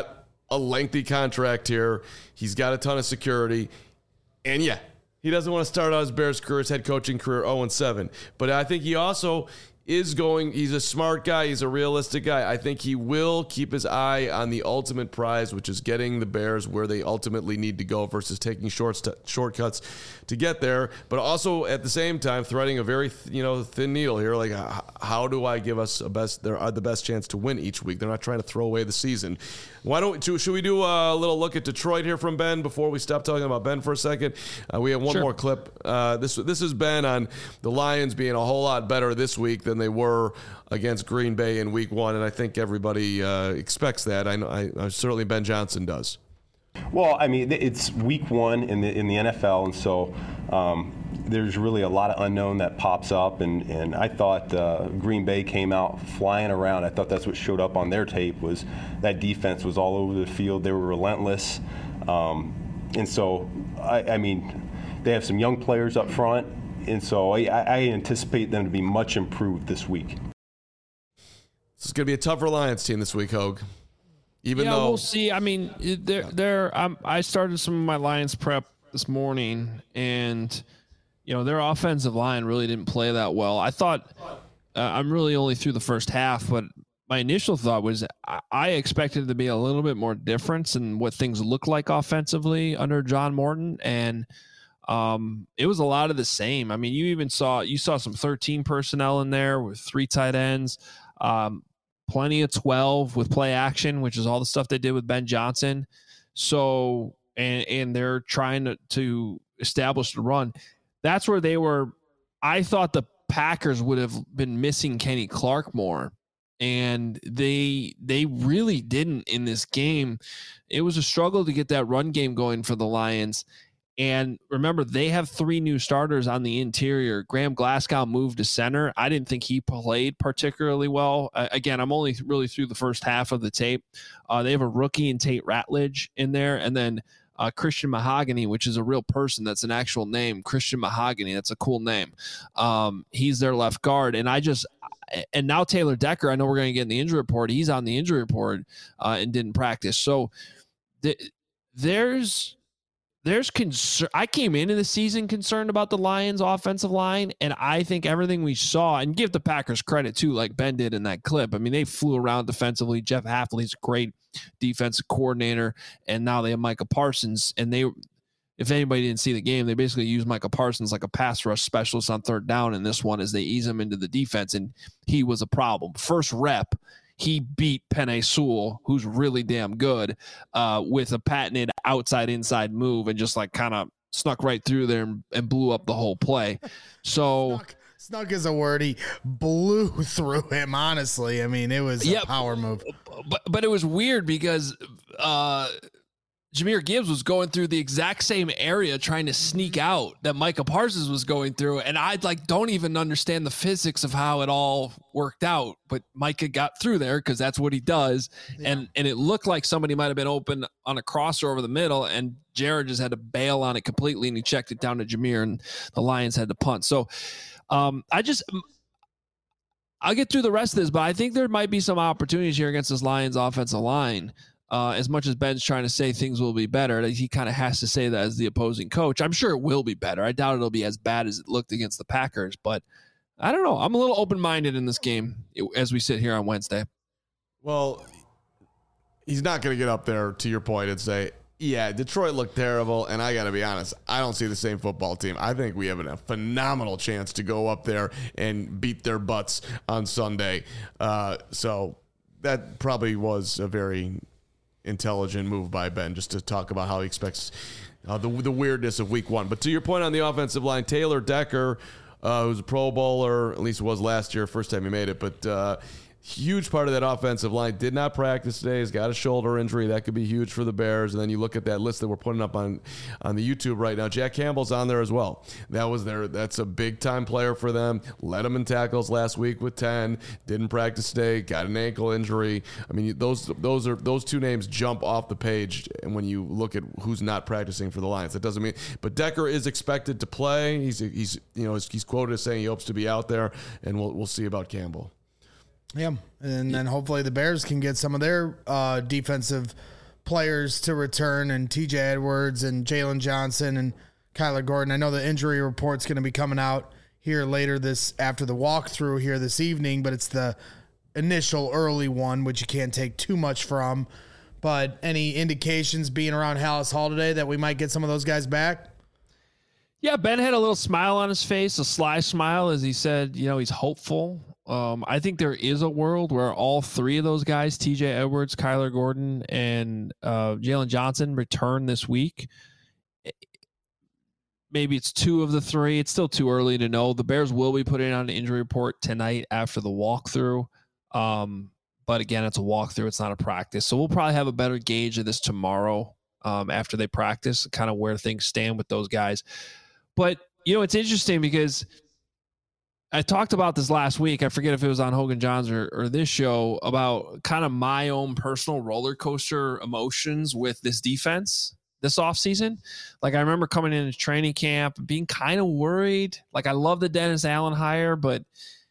a lengthy contract here. He's got a ton of security. And yeah, he doesn't want to start out his Bears career, his head coaching career oh and seven. But I think he also is going, he's a smart guy. He's a realistic guy. I think he will keep his eye on the ultimate prize, which is getting the Bears where they ultimately need to go versus taking short st- shortcuts to get there. But also at the same time, threading a very, th- you know, thin needle here. Like, h- how do I give us a best, there are the best chance to win each week? They're not trying to throw away the season. Why don't we, should we do a little look at Detroit here from Ben before we stop talking about Ben for a second? Uh, we have one Sure. more clip. Uh, this, this is Ben on the Lions being a whole lot better this week than they were against Green Bay in week one. And I think everybody uh, expects that. I know, I, I certainly Ben Johnson does. Well, I mean, it's week one in the in the N F L, and so um, there's really a lot of unknown that pops up. And, and I thought uh, Green Bay came out flying around. I thought that's what showed up on their tape was that defense was all over the field. They were relentless. Um, and so, I, I mean, they have some young players up front, and so I, I anticipate them to be much improved this week. This is going to be a tougher Lions team this week, Hogue. Even yeah, though we'll see. I mean, they're, they're, um, I started some of my Lions prep this morning, and you know their offensive line really didn't play that well. I thought uh, I'm really only through the first half, but my initial thought was I, I expected it to be a little bit more difference in what things look like offensively under John Morton, and um, it was a lot of the same. I mean, you even saw you saw some thirteen personnel in there with three tight ends. Um, Plenty of twelve with play action, which is all the stuff they did with Ben Johnson. So, and and they're trying to, to establish the run. That's where they were. I thought the Packers would have been missing Kenny Clark more, and they they really didn't in this game. It was a struggle to get that run game going for the Lions. And remember, they have three new starters on the interior. Graham Glasgow moved to center. I didn't think he played particularly well. Uh, again, I'm only really through the first half of the tape. Uh, they have a rookie in Tate Ratledge in there, and then uh, Christian Mahogany, which is a real person. That's an actual name. Christian Mahogany. That's a cool name. Um, he's their left guard. And I just – and now Taylor Decker, I know we're going to get in the injury report. He's on the injury report uh, and didn't practice. So th- there's – There's concern. I came into the season concerned about the Lions' offensive line, and I think everything we saw, and give the Packers credit too, like Ben did in that clip. I mean, they flew around defensively. Jeff Hafley's a great defensive coordinator, and now they have Micah Parsons. And they, if anybody didn't see the game, they basically used Micah Parsons like a pass rush specialist on third down in this one as they ease him into the defense, and he was a problem. First rep, he beat Penei Sewell, who's really damn good, uh, with a patented outside-inside move and just like kind of snuck right through there and, and blew up the whole play. So snuck, snuck is a word. He blew through him, honestly. I mean, it was yeah, a power move. But, but it was weird because uh, Jahmyr Gibbs was going through the exact same area trying to sneak out that Micah Parsons was going through. And I like don't even understand the physics of how it all worked out. But Micah got through there because that's what he does. Yeah. And and it looked like somebody might have been open on a crosser over the middle, and Jared just had to bail on it completely, and he checked it down to Jahmyr, and the Lions had to punt. So um, I just I'll get through the rest of this, but I think there might be some opportunities here against this Lions offensive line. Uh, as much as Ben's trying to say things will be better, he kind of has to say that as the opposing coach. I'm sure it will be better. I doubt it'll be as bad as it looked against the Packers, but I don't know. I'm a little open-minded in this game as we sit here on Wednesday. Well, he's not going to get up there, to your point, and say, yeah, Detroit looked terrible, and I got to be honest, I don't see the same football team. I think we have a phenomenal chance to go up there and beat their butts on Sunday. Uh, so that probably was a very intelligent move by Ben, just to talk about how he expects uh, the the weirdness of week one. But to your point on the offensive line, Taylor Decker, uh, who's a Pro Bowler, at least was last year, first time he made it, but uh, huge part of that offensive line, did not practice today. He's got a shoulder injury. That could be huge for the Bears. And then you look at that list that we're putting up on, on the YouTube right now. Jack Campbell's on there as well. That was their, that's a big-time player for them. Led them in tackles last week with ten. Didn't practice today. Got an ankle injury. I mean, those those are those two names jump off the page. And when you look at who's not practicing for the Lions, that doesn't mean. But Decker is expected to play. He's he's you know he's quoted as saying he hopes to be out there, and we'll we'll see about Campbell. Yeah, and then hopefully the Bears can get some of their uh, defensive players to return, and T J Edwards and Jalen Johnson and Kyler Gordon. I know the injury report's going to be coming out here later this after the walkthrough here this evening, but it's the initial early one, which you can't take too much from. But any indications being around Hallis Hall today that we might get some of those guys back? Yeah, Ben had a little smile on his face, a sly smile, as he said, you know, he's hopeful. Um, I think there is a world where all three of those guys, T J Edwards, Kyler Gordon, and uh, Jalen Johnson, return this week. Maybe it's two of the three. It's still too early to know. The Bears will be putting on an injury report tonight after the walkthrough. Um, but again, it's a walkthrough. It's not a practice. So we'll probably have a better gauge of this tomorrow um, after they practice, kind of where things stand with those guys. But, you know, it's interesting because I talked about this last week. I forget if it was on Hogan Johns or, or this show about kind of my own personal roller coaster emotions with this defense this offseason. Like, I remember coming into training camp being kind of worried. Like, I love the Dennis Allen hire, but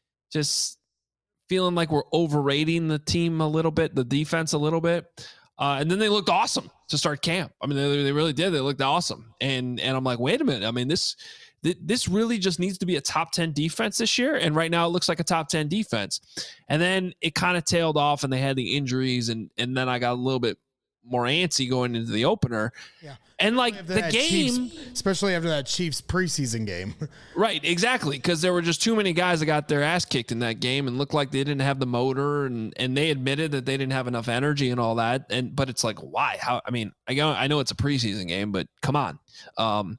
just feeling like we're overrating the team a little bit, the defense a little bit. Uh, and then they looked awesome to start camp. I mean, they, they really did. They looked awesome. And and I'm like, wait a minute. I mean, this this really just needs to be a top ten defense this year. And right now it looks like a top ten defense. And then it kind of tailed off and they had the injuries. And, and then I got a little bit more antsy going into the opener. Yeah. And like the game, Chiefs, especially after that Chiefs preseason game. Right, exactly. Because there were just too many guys that got their ass kicked in that game and looked like they didn't have the motor, and, and they admitted that they didn't have enough energy and all that. And but it's like, why? How? I mean, I know I know it's a preseason game, but come on. Um,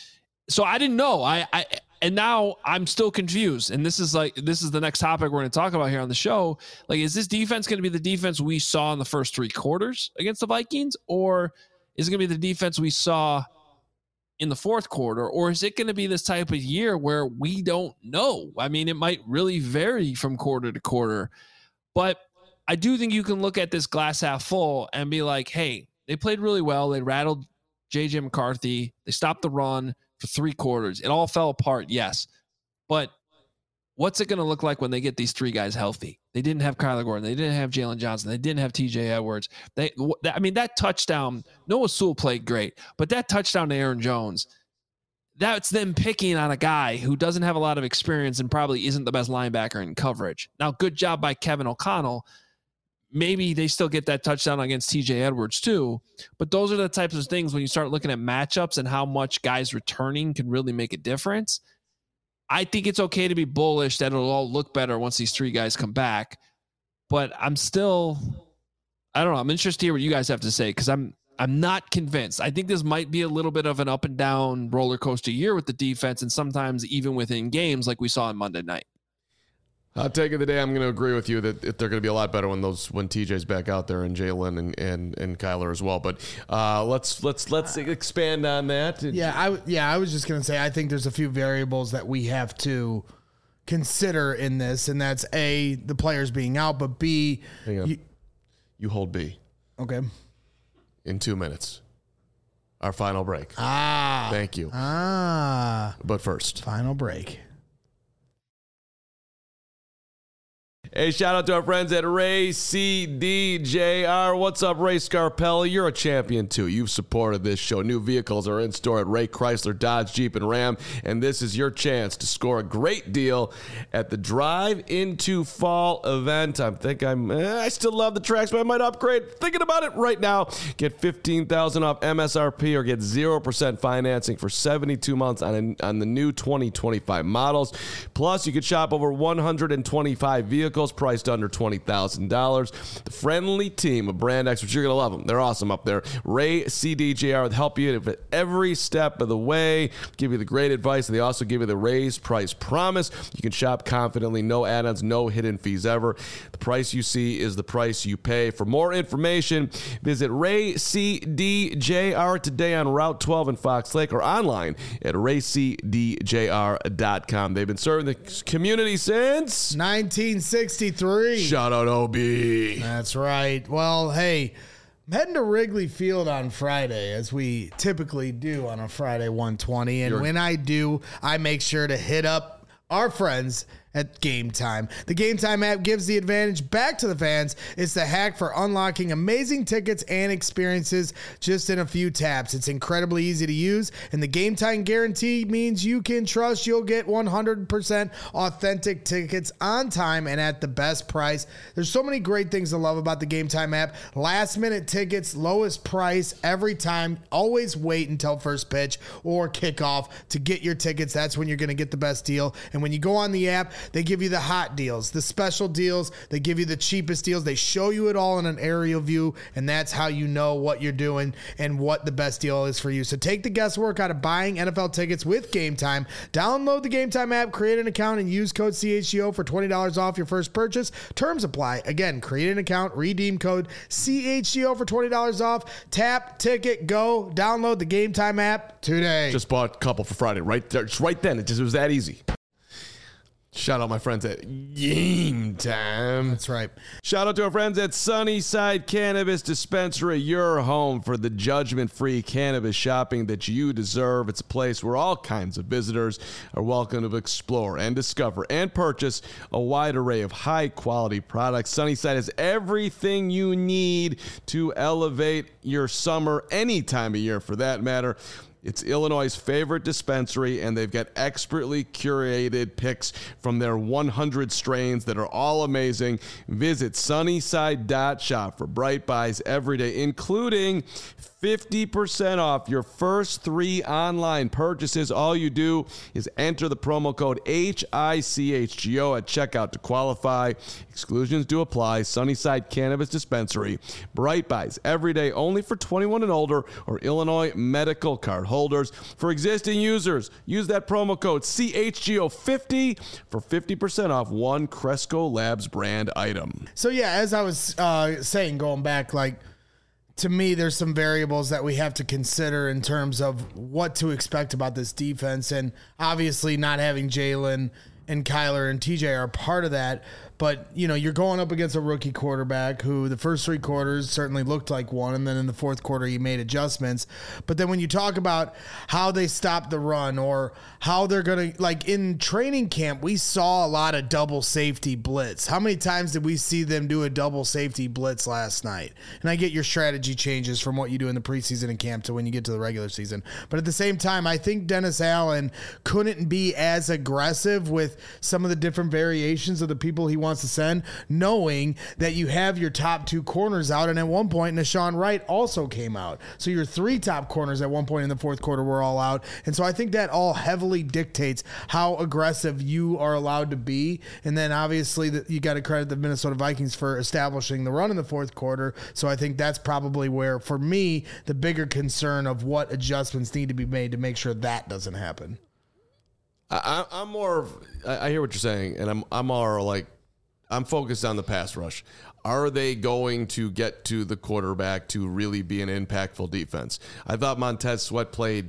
so I didn't know. I, I and now I'm still confused. And this is like this is the next topic we're going to talk about here on the show. Like, is this defense going to be the defense we saw in the first three quarters against the Vikings, or is it going to be the defense we saw in the fourth quarter, or is it going to be this type of year where we don't know? I mean, it might really vary from quarter to quarter, but I do think you can look at this glass half full and be like, hey, they played really well. They rattled J J McCarthy. They stopped the run for three quarters. It all fell apart, yes, but what's it going to look like when they get these three guys healthy? They didn't have Kyler Gordon. They didn't have Jalen Johnson. They didn't have T J Edwards. They, I mean, that touchdown, Noah Sewell played great, but that touchdown to Aaron Jones, that's them picking on a guy who doesn't have a lot of experience and probably isn't the best linebacker in coverage. Now, good job by Kevin O'Connell. Maybe they still get that touchdown against T J Edwards too, but those are the types of things when you start looking at matchups and how much guys returning can really make a difference. I think it's okay to be bullish that it'll all look better once these three guys come back, but I'm still, I don't know. I'm interested to hear what you guys have to say, because I'm I'm not convinced. I think this might be a little bit of an up and down roller coaster year with the defense, and sometimes even within games like we saw on Monday night. I'll take it the day. I'm going to agree with you that they're going to be a lot better when those when T J's back out there, and Jalen and, and and Kyler as well. But uh, let's let's let's expand on that. Yeah, I yeah I was just going to say I think there's a few variables that we have to consider in this, and that's A, the players being out, but B, Hang on. You, you hold B. Okay. In two minutes, our final break. Ah, thank you. Ah, but first, final break. Hey, shout out to our friends at Ray C D J R. What's up, Ray Scarpelli? You're a champion, too. You've supported this show. New vehicles are in store at Ray Chrysler, Dodge, Jeep, and Ram, and this is your chance to score a great deal at the Drive Into Fall event. I think I'm, eh, I still love the tracks, but I might upgrade. Thinking about it right now. Get fifteen thousand dollars off M S R P or get zero percent financing for seventy-two months on, a, on the new twenty twenty-five models. Plus, you could shop over one hundred twenty-five vehicles priced under twenty thousand dollars. The friendly team of brand experts, you're going to love them. They're awesome up there. Ray C D J R will help you at every step of the way, give you the great advice, and they also give you the raised price promise. You can shop confidently, no add-ons, no hidden fees ever. The price you see is the price you pay. For more information, visit Ray C D J R today on Route twelve in Fox Lake or online at ray c d j r dot com. They've been serving the community since nineteen sixty-three. Shout out O B. That's right. Well, hey, I'm heading to Wrigley Field on Friday, as we typically do on a Friday one twenty. And You're- when I do, I make sure to hit up our friends at Game Time. The Game Time app gives the advantage back to the fans. It's the hack for unlocking amazing tickets and experiences just in a few taps. It's incredibly easy to use, and the Game Time guarantee means you can trust you'll get one hundred percent authentic tickets on time and at the best price. There's so many great things to love about the Game Time app. Last minute tickets, lowest price every time. Always wait until first pitch or kickoff to get your tickets. That's when you're going to get the best deal. And when you go on the app, they give you the hot deals, the special deals. They give you the cheapest deals. They show you it all in an aerial view, and that's how you know what you're doing and what the best deal is for you. So take the guesswork out of buying N F L tickets with Game Time. Download the Game Time app, create an account, and use code C H G O for twenty dollars off your first purchase. Terms apply. Again, create an account, redeem code C H G O for twenty dollars off. Tap, ticket, go. Download the Game Time app today. Just bought a couple for Friday right there. Just right then. It just it was that easy. Shout out my friends at Game Time. That's right. Shout out to our friends at Sunnyside Cannabis Dispensary, your home for the judgment-free cannabis shopping that you deserve. It's a place where all kinds of visitors are welcome to explore and discover and purchase a wide array of high-quality products. Sunnyside has everything you need to elevate your summer any time of year, for that matter. It's Illinois' favorite dispensary, and they've got expertly curated picks from their one hundred strains that are all amazing. Visit sunnyside dot shop for bright buys every day, including fifty percent off your first three online purchases. All you do is enter the promo code H I C H G O at checkout to qualify. Exclusions do apply. Sunnyside Cannabis Dispensary. Bright buys every day, only for twenty-one and older or Illinois medical card holders. For existing users, use that promo code C H G O fifty for fifty percent off one Cresco Labs brand item. So yeah, as I was uh, saying, going back, like, to me, there's some variables that we have to consider in terms of what to expect about this defense. And obviously not having Jalen and Kyler and T J are part of that. But, you know, you're going up against a rookie quarterback who the first three quarters certainly looked like one, and then in the fourth quarter he made adjustments. But then when you talk about how they stopped the run or how they're going to, like in training camp, we saw a lot of double safety blitz. How many times did we see them do a double safety blitz last night? And I get your strategy changes from what you do in the preseason and camp to when you get to the regular season. But at the same time, I think Dennis Allen couldn't be as aggressive with some of the different variations of the people he wants to send, knowing that you have your top two corners out, and at one point Nashawn Wright also came out. So your three top corners at one point in the fourth quarter were all out. And so I think that all heavily dictates how aggressive you are allowed to be. And then obviously that you got to credit the Minnesota Vikings for establishing the run in the fourth quarter. So I think that's probably where, for me, the bigger concern of what adjustments need to be made to make sure that doesn't happen. I, I'm more. I hear what you're saying, and I'm. I'm more like, I'm focused on the pass rush. Are they going to get to the quarterback to really be an impactful defense? I thought Montez Sweat played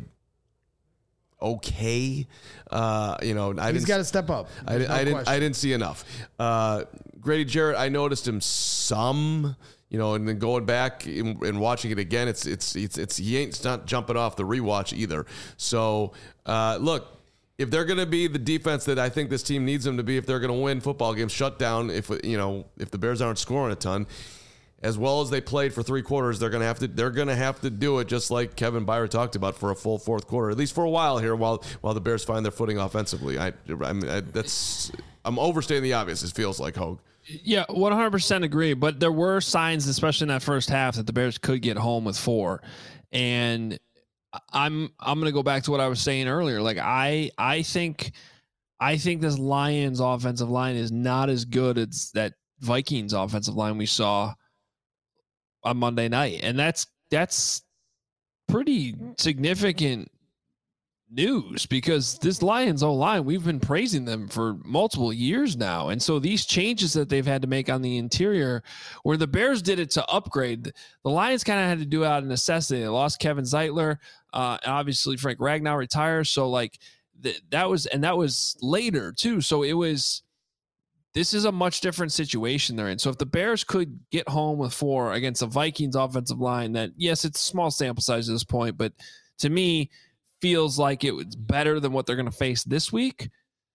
okay. Uh, you know, I he's got to step up. I, no I didn't. I didn't see enough. Uh, Grady Jarrett, I noticed him some. You know, and then going back and, and watching it again, it's it's it's it's he ain't it's not jumping off the rewatch either. So uh, look. If they're going to be the defense that I think this team needs them to be, if they're going to win football games, shut down, if you know, if the Bears aren't scoring a ton, as well as they played for three quarters, they're going to have to they're going to have to do it just like Kevin Byard talked about for a full fourth quarter, at least for a while here, while while the Bears find their footing offensively. I, I mean, I, that's I'm overstating the obvious. It feels like, Hogue. Yeah, one hundred percent agree. But there were signs, especially in that first half, that the Bears could get home with four, and I'm I'm gonna go back to what I was saying earlier. Like I I think I think this Lions offensive line is not as good as that Vikings offensive line we saw on Monday night, and that's that's pretty significant news because this Lions O-line, we've been praising them for multiple years now, and so these changes that they've had to make on the interior, where the Bears did it to upgrade, the Lions kind of had to do it out of necessity. They lost Kevin Zeitler, uh, and obviously Frank Ragnow retires, so like th- that was and that was later too. So it was. This is a much different situation they're in. So if the Bears could get home with four against the Vikings offensive line, that yes, it's a small sample size at this point, but to me, feels like it was better than what they're going to face this week.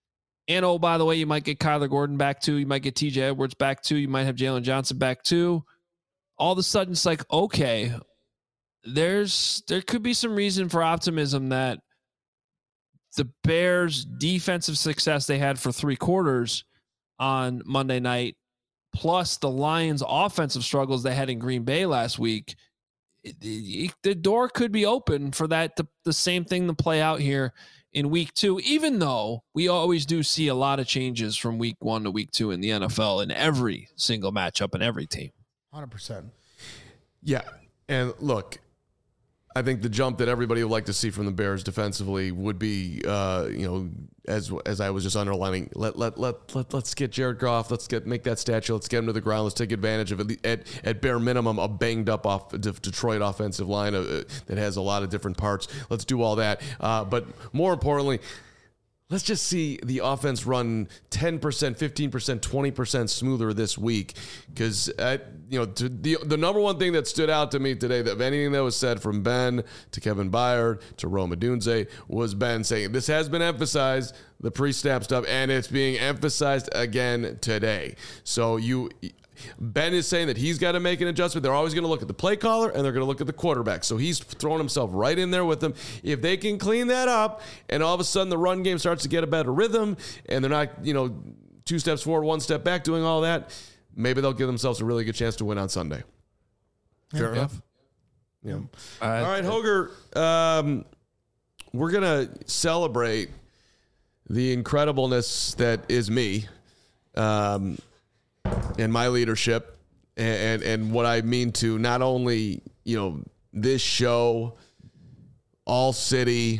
And, oh, by the way, you might get Kyler Gordon back too. You might get T J Edwards back too. You might have Jalen Johnson back too. All of a sudden, it's like, okay, there's there could be some reason for optimism that the Bears' defensive success they had for three quarters on Monday night, plus the Lions' offensive struggles they had in Green Bay last week, it, it, the door could be open for that to, the same thing to play out here in week two, even though we always do see a lot of changes from week one to week two in the N F L in every single matchup and every team. one hundred percent. Yeah. And look, I think the jump that everybody would like to see from the Bears defensively would be, uh, you know, as as I was just underlining, let let let let let's get Jared Goff, let's get make that statue, let's get him to the ground, let's take advantage of it at at bare minimum a banged up off Detroit offensive line uh, that has a lot of different parts. Let's do all that, uh, but more importantly, let's just see the offense run ten percent, fifteen percent, twenty percent smoother this week. Because, uh, you know, to the the number one thing that stood out to me today, that of anything that was said from Ben to Kevin Byard to Rome Odunze, was Ben saying, this has been emphasized, the pre-snap stuff, and it's being emphasized again today. So you... Ben is saying that he's got to make an adjustment. They're always going to look at the play caller and they're going to look at the quarterback. So he's throwing himself right in there with them. If they can clean that up and all of a sudden the run game starts to get a better rhythm and they're not, you know, two steps forward, one step back doing all that, maybe they'll give themselves a really good chance to win on Sunday. Fair yeah. enough? Yeah. Uh, all right, Hoger, um, we're going to celebrate the incredibleness that is me. Um, and my leadership and, and and what I mean to not only, you know, this show, All City,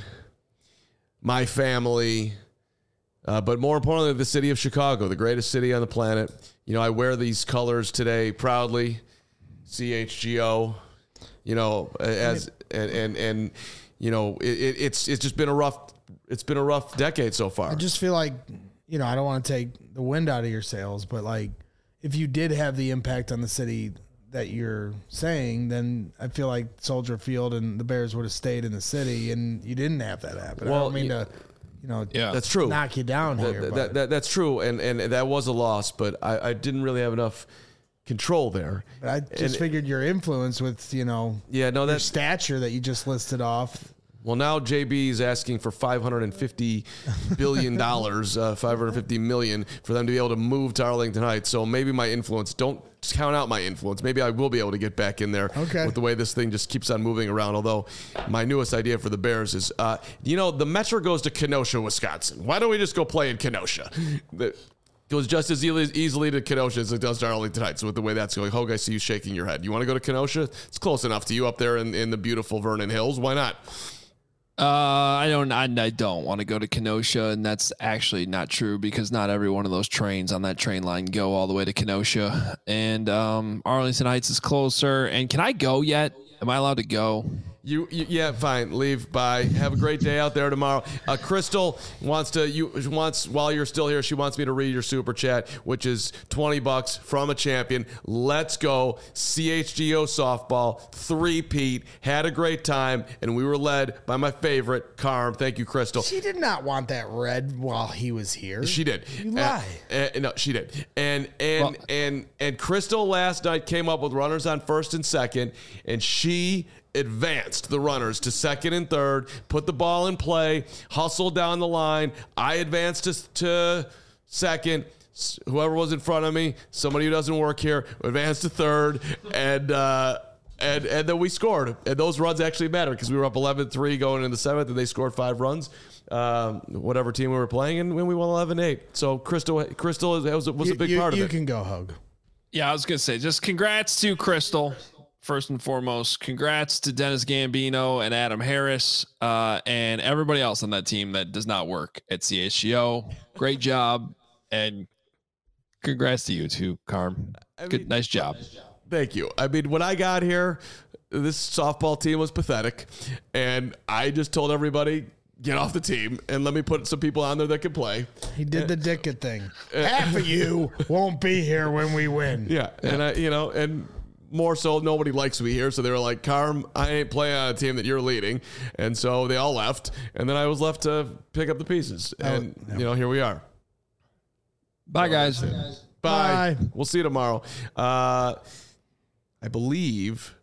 my family, uh, but more importantly, the city of Chicago, the greatest city on the planet. You know, I wear these colors today proudly, C H G O, you know, as and and, and you know, it, it's it's just been a rough it's been a rough decade so far. I just feel like, you know, I don't want to take the wind out of your sails, but like, if you did have the impact on the city that you're saying, then I feel like Soldier Field and the Bears would have stayed in the city, and you didn't have that happen. Well, I don't mean yeah. to, you know, yeah. that's true. knock you down that, here. That, that, that, that's true, and and that was a loss, but I, I didn't really have enough control there. But I just and, figured your influence with, you know, yeah, no, that stature that you just listed off. Well, now J B is asking for five hundred fifty billion dollars, uh, five hundred fifty million dollars for them to be able to move to Arlington Heights. So maybe my influence, don't count out my influence. Maybe I will be able to get back in there okay. with the way this thing just keeps on moving around. Although my newest idea for the Bears is, uh, you know, the Metro goes to Kenosha, Wisconsin. Why don't we just go play in Kenosha? The, goes just as easily to Kenosha as it does to Arlington Heights with the way that's going. Hogue, I see you shaking your head. You want to go to Kenosha? It's close enough to you up there in, in the beautiful Vernon Hills. Why not? Uh, I don't. I, I don't want to go to Kenosha, and that's actually not true because not every one of those trains on that train line go all the way to Kenosha. And um, Arlington Heights is closer. And can I go yet? Am I allowed to go? You, you yeah, fine. Leave. Bye. Have a great day out there tomorrow. Uh, Crystal wants to. You wants while you're still here. She wants me to read your super chat, which is twenty bucks from a champion. Let's go. C H G O softball three-peat. Had a great time, and we were led by my favorite, Carm. Thank you, Crystal. She did not want that red while he was here. She did. You lie. Uh, uh, no, she did. And and well, and and Crystal last night came up with runners on first and second, and she advanced the runners to second and third, put the ball in play, hustled down the line. I advanced to, to second. Whoever was in front of me, somebody who doesn't work here, advanced to third, and uh, and and then we scored. And those runs actually mattered because we were up eleven three going into the seventh, and they scored five runs. Um, whatever team we were playing, and when we won eleven eight. So Crystal, Crystal was, was you, a big you, part of you it. You can go, Hug. Yeah, I was gonna say, just congrats to Crystal. First and foremost, congrats to Dennis Gambino and Adam Harris uh, and everybody else on that team that does not work at C H G O. Great job, and congrats to you too, Carm. I Good, mean, nice job. Thank you. I mean, when I got here, this softball team was pathetic, and I just told everybody, get off the team and let me put some people on there that can play. He did the Dickett thing. Half of you won't be here when we win. Yeah, yeah. and I, you know, and. More so, nobody likes me here, so they were like, Carm, I ain't playing on a team that you're leading. And so they all left, and then I was left to pick up the pieces. And, oh, no. you know, here we are. Bye, guys. Bye. Bye. We'll see you tomorrow. Uh, I believe,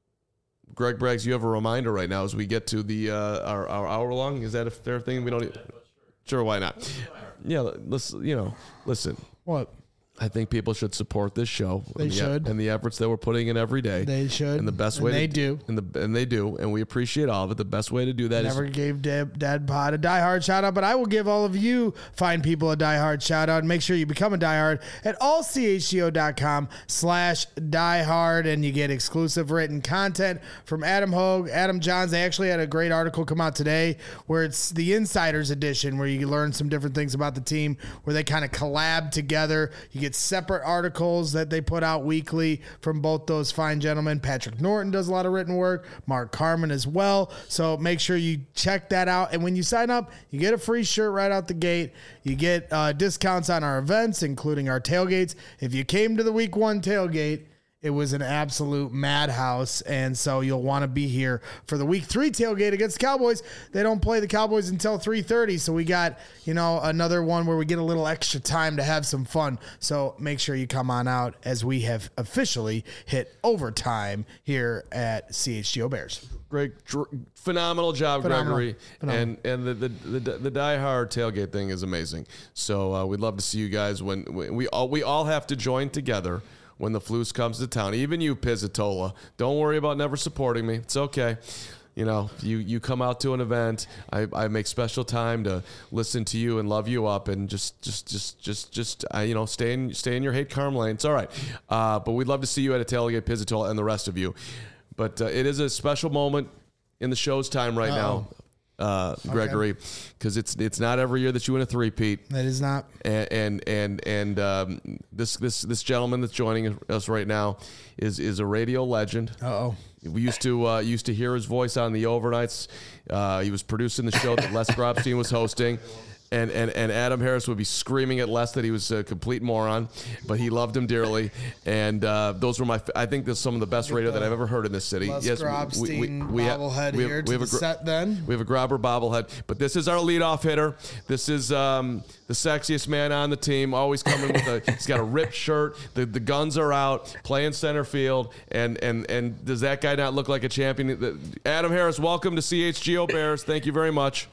Greg Braggs, you have a reminder right now as we get to the uh, our, our hour long. Is that a fair thing? We don't. Need, sure, why not? Yeah, listen. You know, listen. What? I think people should support this show. They and the, should. and the efforts that we're putting in every day. They should. And the best And way they to, do. And the and they do, and we appreciate all of it. The best way to do that Never is gave Dad, Dad Pod a diehard shout out, but I will give all of you fine people a diehard shout out. And make sure you become a diehard at allchgo.com slash diehard, and you get exclusive written content from Adam Hogue, Adam Johns. They actually had a great article come out today where it's the Insiders Edition, where you learn some different things about the team, where they kind of collab together. You get separate articles that they put out weekly from both those fine gentlemen. Patrick Norton does a lot of written work, Mark Carman as well. So make sure you check that out. And when you sign up, you get a free shirt right out the gate. You get uh, discounts on our events, including our tailgates. If you came to the week one tailgate, it was an absolute madhouse, and so you'll want to be here for the week three tailgate against the Cowboys. They don't play the Cowboys until three thirty, so we got, you know, another one where we get a little extra time to have some fun. So make sure you come on out as we have officially hit overtime here at C H G O Bears. Great, dr- phenomenal job, Phenomenal. Gregory, Phenomenal. and and the the the, the Die Hard tailgate thing is amazing. So uh, we'd love to see you guys when, when we all we all have to join together when the Flus comes to town. Even you, Pizzatola, don't worry about never supporting me. It's okay. You know, you, you come out to an event. I, I make special time to listen to you and love you up, and just just just just just uh, you know, stay in stay in your hate karma lane. It's all right. Uh, but we'd love to see you at a tailgate, Pizzatola, and the rest of you. But uh, it is a special moment in the show's time right Uh-oh. now, uh, Gregory, because it's it's not every year that you win a three-peat. That is not. And and and, and um, this this this gentleman that's joining us right now is is a radio legend. Uh-oh. We used to uh, used to hear his voice on the overnights. Uh, he was producing the show that Les Grobstein was hosting. And, and and Adam Harris would be screaming at Les that he was a complete moron, but he loved him dearly. And uh, those were my, I think that's some of the best radio that I've ever heard in this city. Les yes, Grobstein bobblehead we have, here to we have the a gr- set then. We have a grabber bobblehead, but this is our leadoff hitter. This is um, the sexiest man on the team, always coming with a, he's got a ripped shirt. The the guns are out, playing center field. And and and does that guy not look like a champion? Adam Harris, welcome to C H G O Bears. Thank you very much.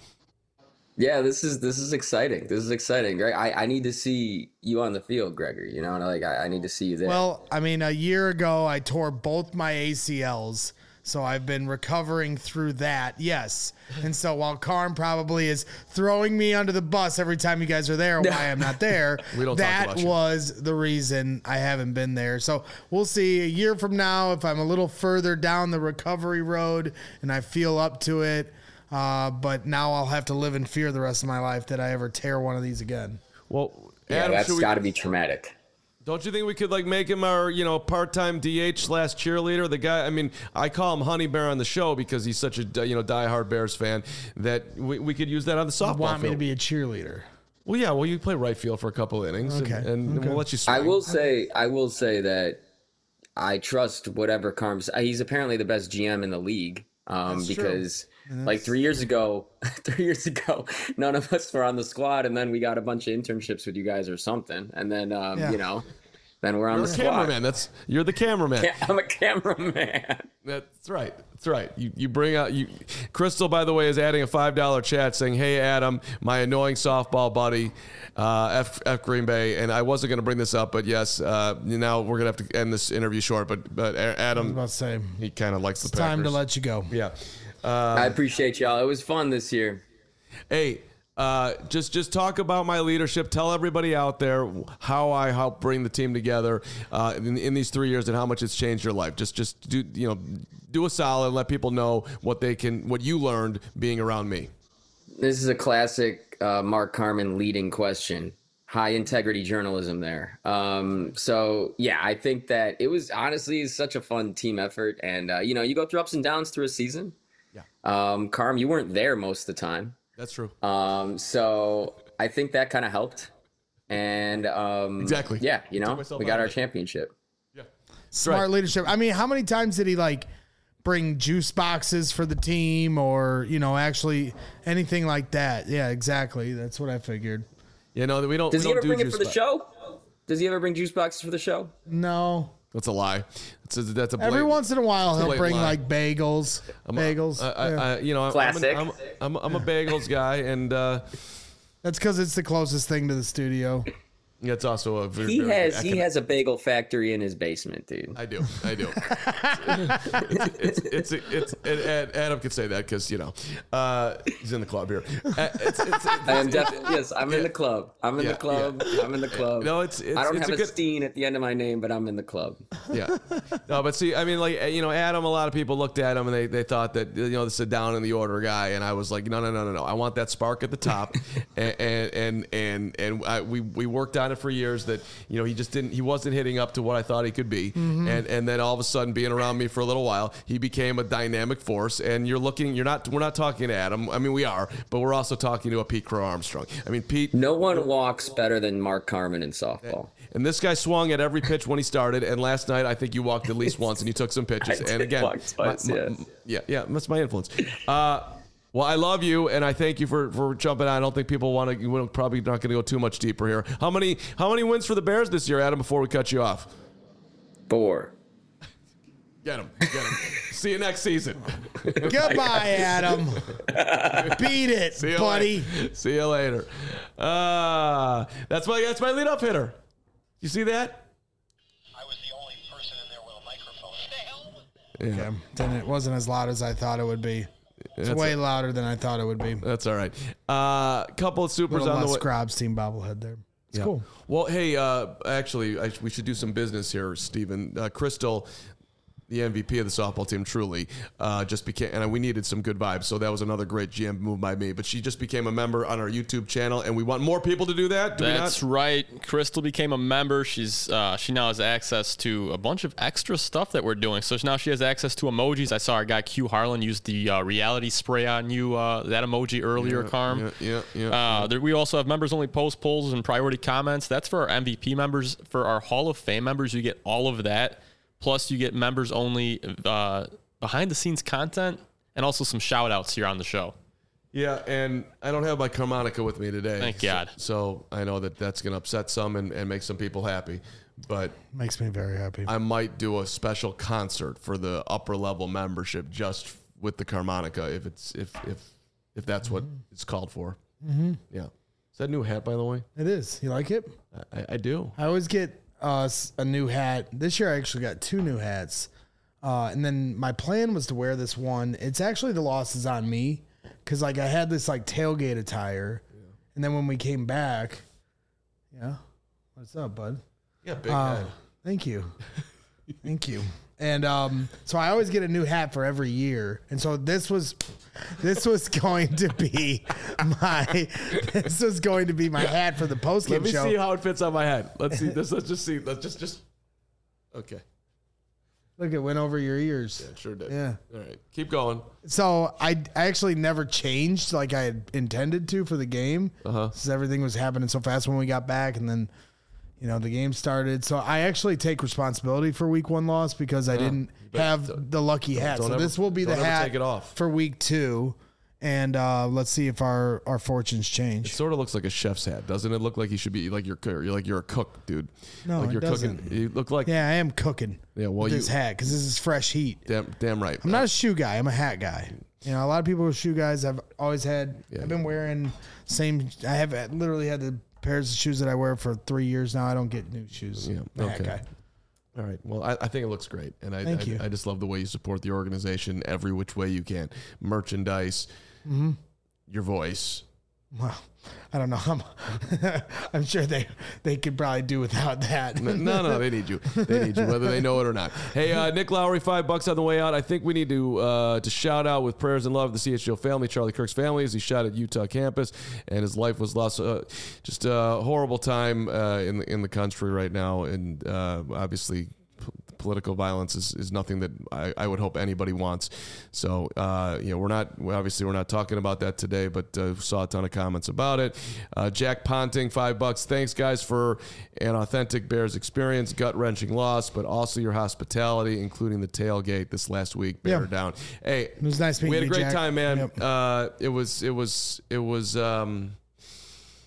Yeah, this is this is exciting. This is exciting, Greg. I, I need to see you on the field, Gregory. You know, like I, I need to see you there. Well, I mean, a year ago I tore both my A C Ls, so I've been recovering through that. Yes, and so while Carm probably is throwing me under the bus every time you guys are there, why I'm not there, We don't talk that about you. was the reason I haven't been there. So we'll see a year from now if I'm a little further down the recovery road and I feel up to it. Uh, but now I'll have to live in fear the rest of my life that I ever tear one of these again. Well, yeah, Adam, that's should we- got to be traumatic. Don't you think we could like make him our, you know, part-time D H slash cheerleader? The guy, I mean, I call him Honey Bear on the show because he's such a, you know, diehard Bears fan that we, we could use that on the softball You want me field. to be a cheerleader? Well, yeah, well, you play right field for a couple innings, Okay, and, and okay. we'll let you swing. I will say, I will say that I trust whatever Carm's. He's apparently the best G M in the league. Um, That's true. because like three years ago, three years ago, none of us were on the squad, and then we got a bunch of internships with you guys or something, and then um, Yeah. you know, then we're on You're the a squad. cameraman. That's you're the cameraman. Yeah, I'm a cameraman. That's right. That's right. You you bring out you. Crystal, by the way, is adding a five dollar chat saying, "Hey Adam, my annoying softball buddy, uh, F F Green Bay." And I wasn't going to bring this up, but yes, uh, now we're going to have to end this interview short. But but I was Adam, about to say, he kind of likes the it's time to Packers. let you go. Yeah. I appreciate y'all. It was fun this year. Hey, uh, just just talk about my leadership. Tell everybody out there how I helped bring the team together uh, in, in these three years and how much it's changed your life. Just just do you know do a solid. Let people know what they can what you learned being around me. This is a classic uh, Mark Carman leading question. High integrity journalism there. Um, so yeah, I think that it was honestly such a fun team effort, and uh, you know, you go through ups and downs through a season. Yeah. Um, Carm, you weren't there most of the time. That's true. Um, so I think that kind of helped. And um, Exactly. yeah, you Took know, myself we out got of our it. championship. Smart right. leadership. I mean, how many times did he like bring juice boxes for the team or, you know, actually anything like that? Yeah, exactly. That's what I figured. You know, we don't. Does we he don't ever do bring it juice for the box. show? Does he ever bring juice boxes for the show? No. That's a lie. That's a, that's a Every blatant- once in a while, it's a he'll blatant bring lie. like bagels. I'm bagels. A, I, yeah. I, you know, I'm, Classic. I'm, I'm, I'm, I'm a bagels guy, and uh, That's because it's the closest thing to the studio. it's also a very. He very has economic- he has a bagel factory in his basement, dude. I do. I do. it's, it's, it's, it's, it's, Adam can say that because, you know, uh, he's in the club here. Uh, It's, it's, it's, I am definitely yes. I'm in the club. I'm in Yeah, the club. yeah. I'm in the club. No, it's- it's- I don't it's have a a, good- Steen at the end of my name, but I'm in the club. Yeah. No, but see, I mean, like, you know, Adam, a lot of people looked at him and they, they thought that, you know, the sit down in the order guy. And I was like, no, no, no, no, no. I want that spark at the top. and, and, and, and, and I, we, we worked on it for years that, you know, he just didn't, he wasn't hitting up to what I thought he could be. Mm-hmm. And, and then all of a sudden being around me for a little while, he became a dynamic force. And you're looking, you're not, we're not talking to Adam. I mean, we are, but we're also talking to a Pete Crow Armstrong. I mean, Pete. No one walks better than Mark Carman in softball. And this guy swung at every pitch when he started. And last night, I think you walked at least once and you took some pitches. I and did again, walk twice, my- my- yes. yeah, yeah, that's my influence. Uh, well, I love you, and I thank you for, for jumping on. I don't think people want to. We're probably not going to go too much deeper here. How many how many wins for the Bears this year, Adam? Before we cut you off, Four. get him, get him. See you next season. Goodbye, Adam. Beat it, See you buddy. Later. See you later. Uh, that's my that's my leadoff hitter. You see that? I was the only person in there with a microphone. What the hell was that? Yeah. Okay. Then it wasn't as loud as I thought it would be. It's That's way a- louder than I thought it would be. A That's all right. Uh, couple of supers little on the less way. Grob's team bobblehead there. It's Yeah. cool. Well, hey, uh, actually, I, we should do some business here, Stephen. Uh, Crystal, the M V P of the softball team, truly, uh, just became, and we needed some good vibes. So that was another great G M move by me. But she just became a member on our YouTube channel, and we want more people to do that. Do That's we not? right. Crystal became a member. She's uh, she now has access to a bunch of extra stuff that we're doing. So now she has access to emojis. I saw our guy Q Harlan use the uh, reality spray on you, uh, that emoji earlier, Yeah, Carm. yeah, yeah, yeah, Uh, yeah. there, we also have members only post polls and priority comments. That's for our M V P members. For our Hall of Fame members, you get all of that. Plus, you get members only uh, behind the scenes content and also some shout outs here on the show. Yeah, and I don't have my harmonica with me today. Thank God. So, so I know that that's going to upset some and, and make some people happy. But Makes me very happy. I might do a special concert for the upper level membership just with the harmonica if it's if if if that's what it's called for. Mm-hmm. Yeah. Is that a new hat, by the way? It is. You like it? I, I do. I always get uh, s- a new hat. This year I actually got two new hats. Uh, and then my plan was to wear this one. It's actually the loss is on me because like I had this like tailgate attire. Yeah. And then when we came back, yeah. What's up, bud? Yeah, big Uh, head. Thank you. Thank you. And um, so I always get a new hat for every year. And so this was this was going to be my this was going to be my hat for the post Let game me show. see how it fits on my head. Let's see this. Let's just see. Let's just just. Okay. Look, it went over your ears. Yeah, it sure did. Yeah. All right. Keep going. So I, I actually never changed like I had intended to for the game. Uh-huh. Since everything was happening so fast when we got back, and then you know the game started. So I actually take responsibility for week one loss because I didn't but have don't- the lucky hat. don't So ever- this will be the don't ever hat take it off. for week two, and uh, let's see if our, our fortunes It change. sort of looks like a chef's hat, doesn't it? Look like you should be like you're you're like you're a cook, dude. No, like it you're doesn't. cooking. You look like Yeah, I am cooking. Yeah, well, with you- this hat because this is fresh heat. damn damn right. I'm not a shoe guy. I'm a hat guy. You know, a lot of people are shoe guys. I've always had. Yeah. I've been wearing same. I have literally had the pairs of shoes that I wear for three years now. I don't get new shoes. Yeah, I'm a hat okay. guy. All right. Well, I, I think it looks great, and I Thank I, you. I just love the way you support the organization every which way you can. Merchandise, Mm-hmm. your voice. Well, I don't know. I'm, I'm sure they they could probably do without that. No, no, no, they need you. They need you, whether they know it or not. Hey, uh, Nick Lowry, five bucks on the way out. I think we need to uh, to shout out with prayers and love the C H G O family, Charlie Kirk's family, as he shot at Utah campus, and his life was lost. Uh, just a horrible time uh, in the in the country right now, and uh, obviously. p- Political violence is, is nothing that I, I would hope anybody wants. So, uh, you know, we're not, obviously we're not talking about that today, but uh, saw a ton of comments about it. Uh, Jack Ponting, five bucks. Thanks, guys, for an authentic Bears experience, gut-wrenching loss, but also your hospitality, including the tailgate this last week. Bear Yeah. down. Hey, It was nice meeting we had a you, great Jack. time, man. Yep. Uh, it was, it was, it was, um,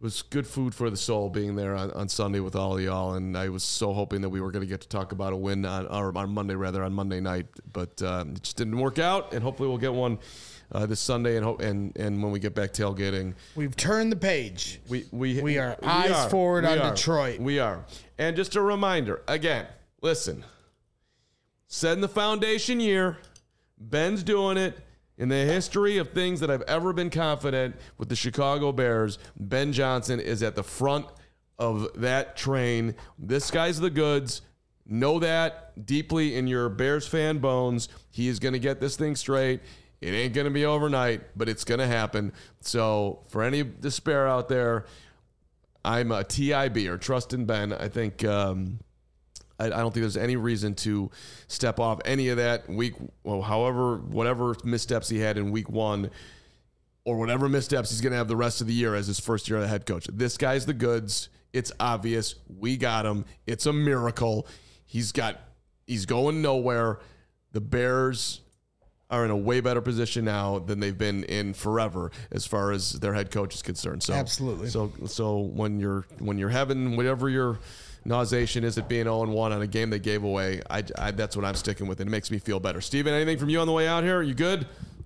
was good food for the soul being there on, on Sunday with all of y'all, and I was so hoping that we were going to get to talk about a win on, or on Monday, rather, on Monday night, but um, it just didn't work out, and hopefully we'll get one uh, this Sunday, and, ho- and and when we get back tailgating. We've turned the page. We we, we are we eyes are, forward we on are, Detroit. We are. And just a reminder, again, listen, setting the foundation year, Ben's doing it. In the history of things that I've ever been confident with the Chicago Bears, Ben Johnson is at the front of that train. This guy's the goods. Know that deeply in your Bears fan bones. He is going to get this thing straight. It ain't going to be overnight, but it's going to happen. So for any despair out there, I'm a T I B or trust in Ben. I think... Um, I don't think there's any reason to step off any of that week, well, however, whatever missteps he had in week one or whatever missteps he's going to have the rest of the year as his first year as head coach. This guy's the goods. It's obvious. We got him. It's a miracle. He's got, he's going nowhere. The Bears are in a way better position now than they've been in forever as far as their head coach is concerned. So absolutely. So, so when you're, when you're having whatever you're, Nauseation is it being oh and one on a game they gave away. I, I, that's what I'm sticking with, and it makes me feel better. Steven, anything from you on the way out here? Are you good?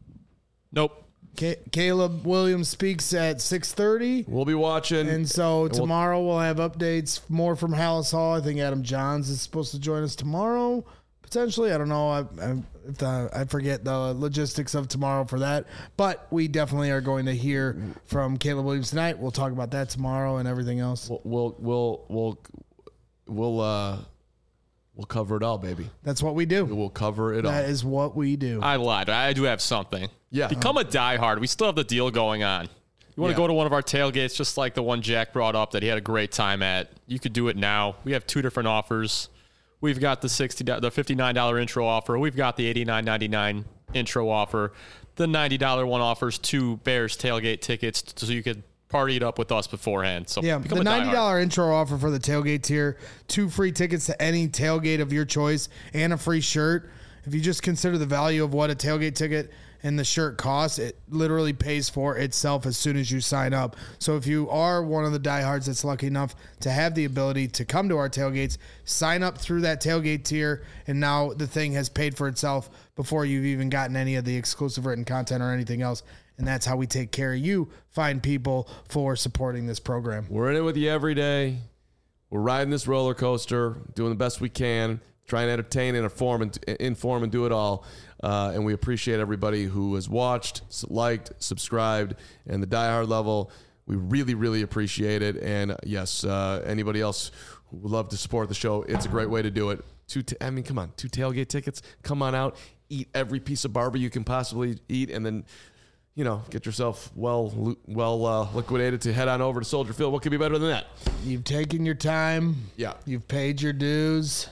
Nope. Ca- Caleb Williams speaks at six thirty. We'll be watching. And so and tomorrow we'll, we'll have updates more from Hallis Hall. I think Adam Johns is supposed to join us tomorrow, potentially. I don't know. I, I, if the, I forget the logistics of tomorrow for that. But we definitely are going to hear from Caleb Williams tonight. We'll talk about that tomorrow and everything else. We'll we'll we'll we'll, we'll uh we'll cover it all, baby. That's what we do. We'll cover it all. That is what we do. I lied. I do have something. Yeah. Become a diehard. We still have the deal going on. You want to Yeah. go to one of our tailgates, just like the one Jack brought up that he had a great time at. You could do it now. We have two different offers. We've got the sixty, the fifty-nine dollars intro offer. We've got the eighty-nine ninety-nine intro offer. The ninety dollars one offers two Bears tailgate tickets, so you could party it up with us beforehand. So yeah, become the a ninety dollars diehard. intro offer for the tailgate tier, two free tickets to any tailgate of your choice, and a free shirt. If you just consider the value of what a tailgate ticket and the shirt costs, it literally pays for itself as soon as you sign up. So if you are one of the diehards that's lucky enough to have the ability to come to our tailgates, sign up through that tailgate tier, and now the thing has paid for itself before you've even gotten any of the exclusive written content or anything else. And that's how we take care of you, fine people, for supporting this program. We're in it with you every day. We're riding this roller coaster, doing the best we can, trying to entertain and inform and, inform and do it all. Uh, and we appreciate everybody who has watched, liked, subscribed, and the diehard level. We really, really appreciate it. And uh, yes, uh, anybody else who would love to support the show, it's a great way to do it. Two, t- I mean, come on, two tailgate tickets. Come on out, eat every piece of barbecue you can possibly eat, and then, you know, get yourself well, well uh, liquidated to head on over to Soldier Field. What could be better than that? You've taken your time. Yeah. You've paid your dues.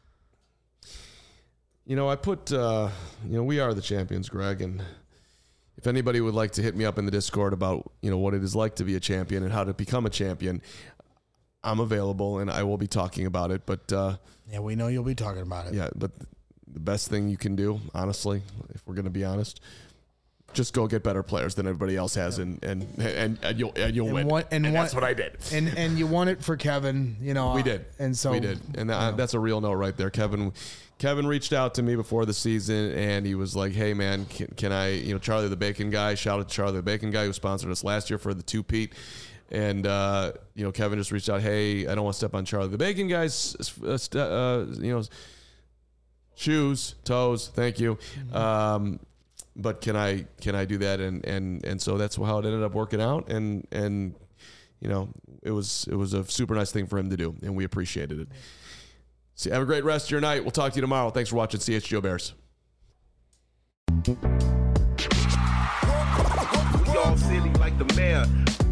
You know, I put, uh, you know, we are the champions, Greg, and if anybody would like to hit me up in the Discord about, you know, what it is like to be a champion and how to become a champion, I'm available and I will be talking about it. But uh, yeah, we know you'll be talking about it. Yeah, but the best thing you can do, honestly, if we're going to be honest, just go get better players than everybody else has, and and and, and you'll and you'll And win. what- and and what- that's what I did. And and you won it for Kevin, you know. We uh, did, And so we did, and that, that's a real note right there. Kevin, Kevin reached out to me before the season, and he was like, "Hey, man, can, can I, you know, Charlie the Bacon guy? Shout out to Charlie the Bacon guy who sponsored us last year for the two Pete." And uh, you know, Kevin just reached out, "Hey, I don't want to step on Charlie the Bacon guy's, uh, st- uh, you know, shoes, toes. Thank you." Um, but can I can I do that? And and and so that's how it ended up working out. And and you know, it was it was a super nice thing for him to do, and we appreciated it. So have a great rest of your night. We'll talk to you tomorrow. Thanks for watching C H G O Bears. We all silly like the mayor.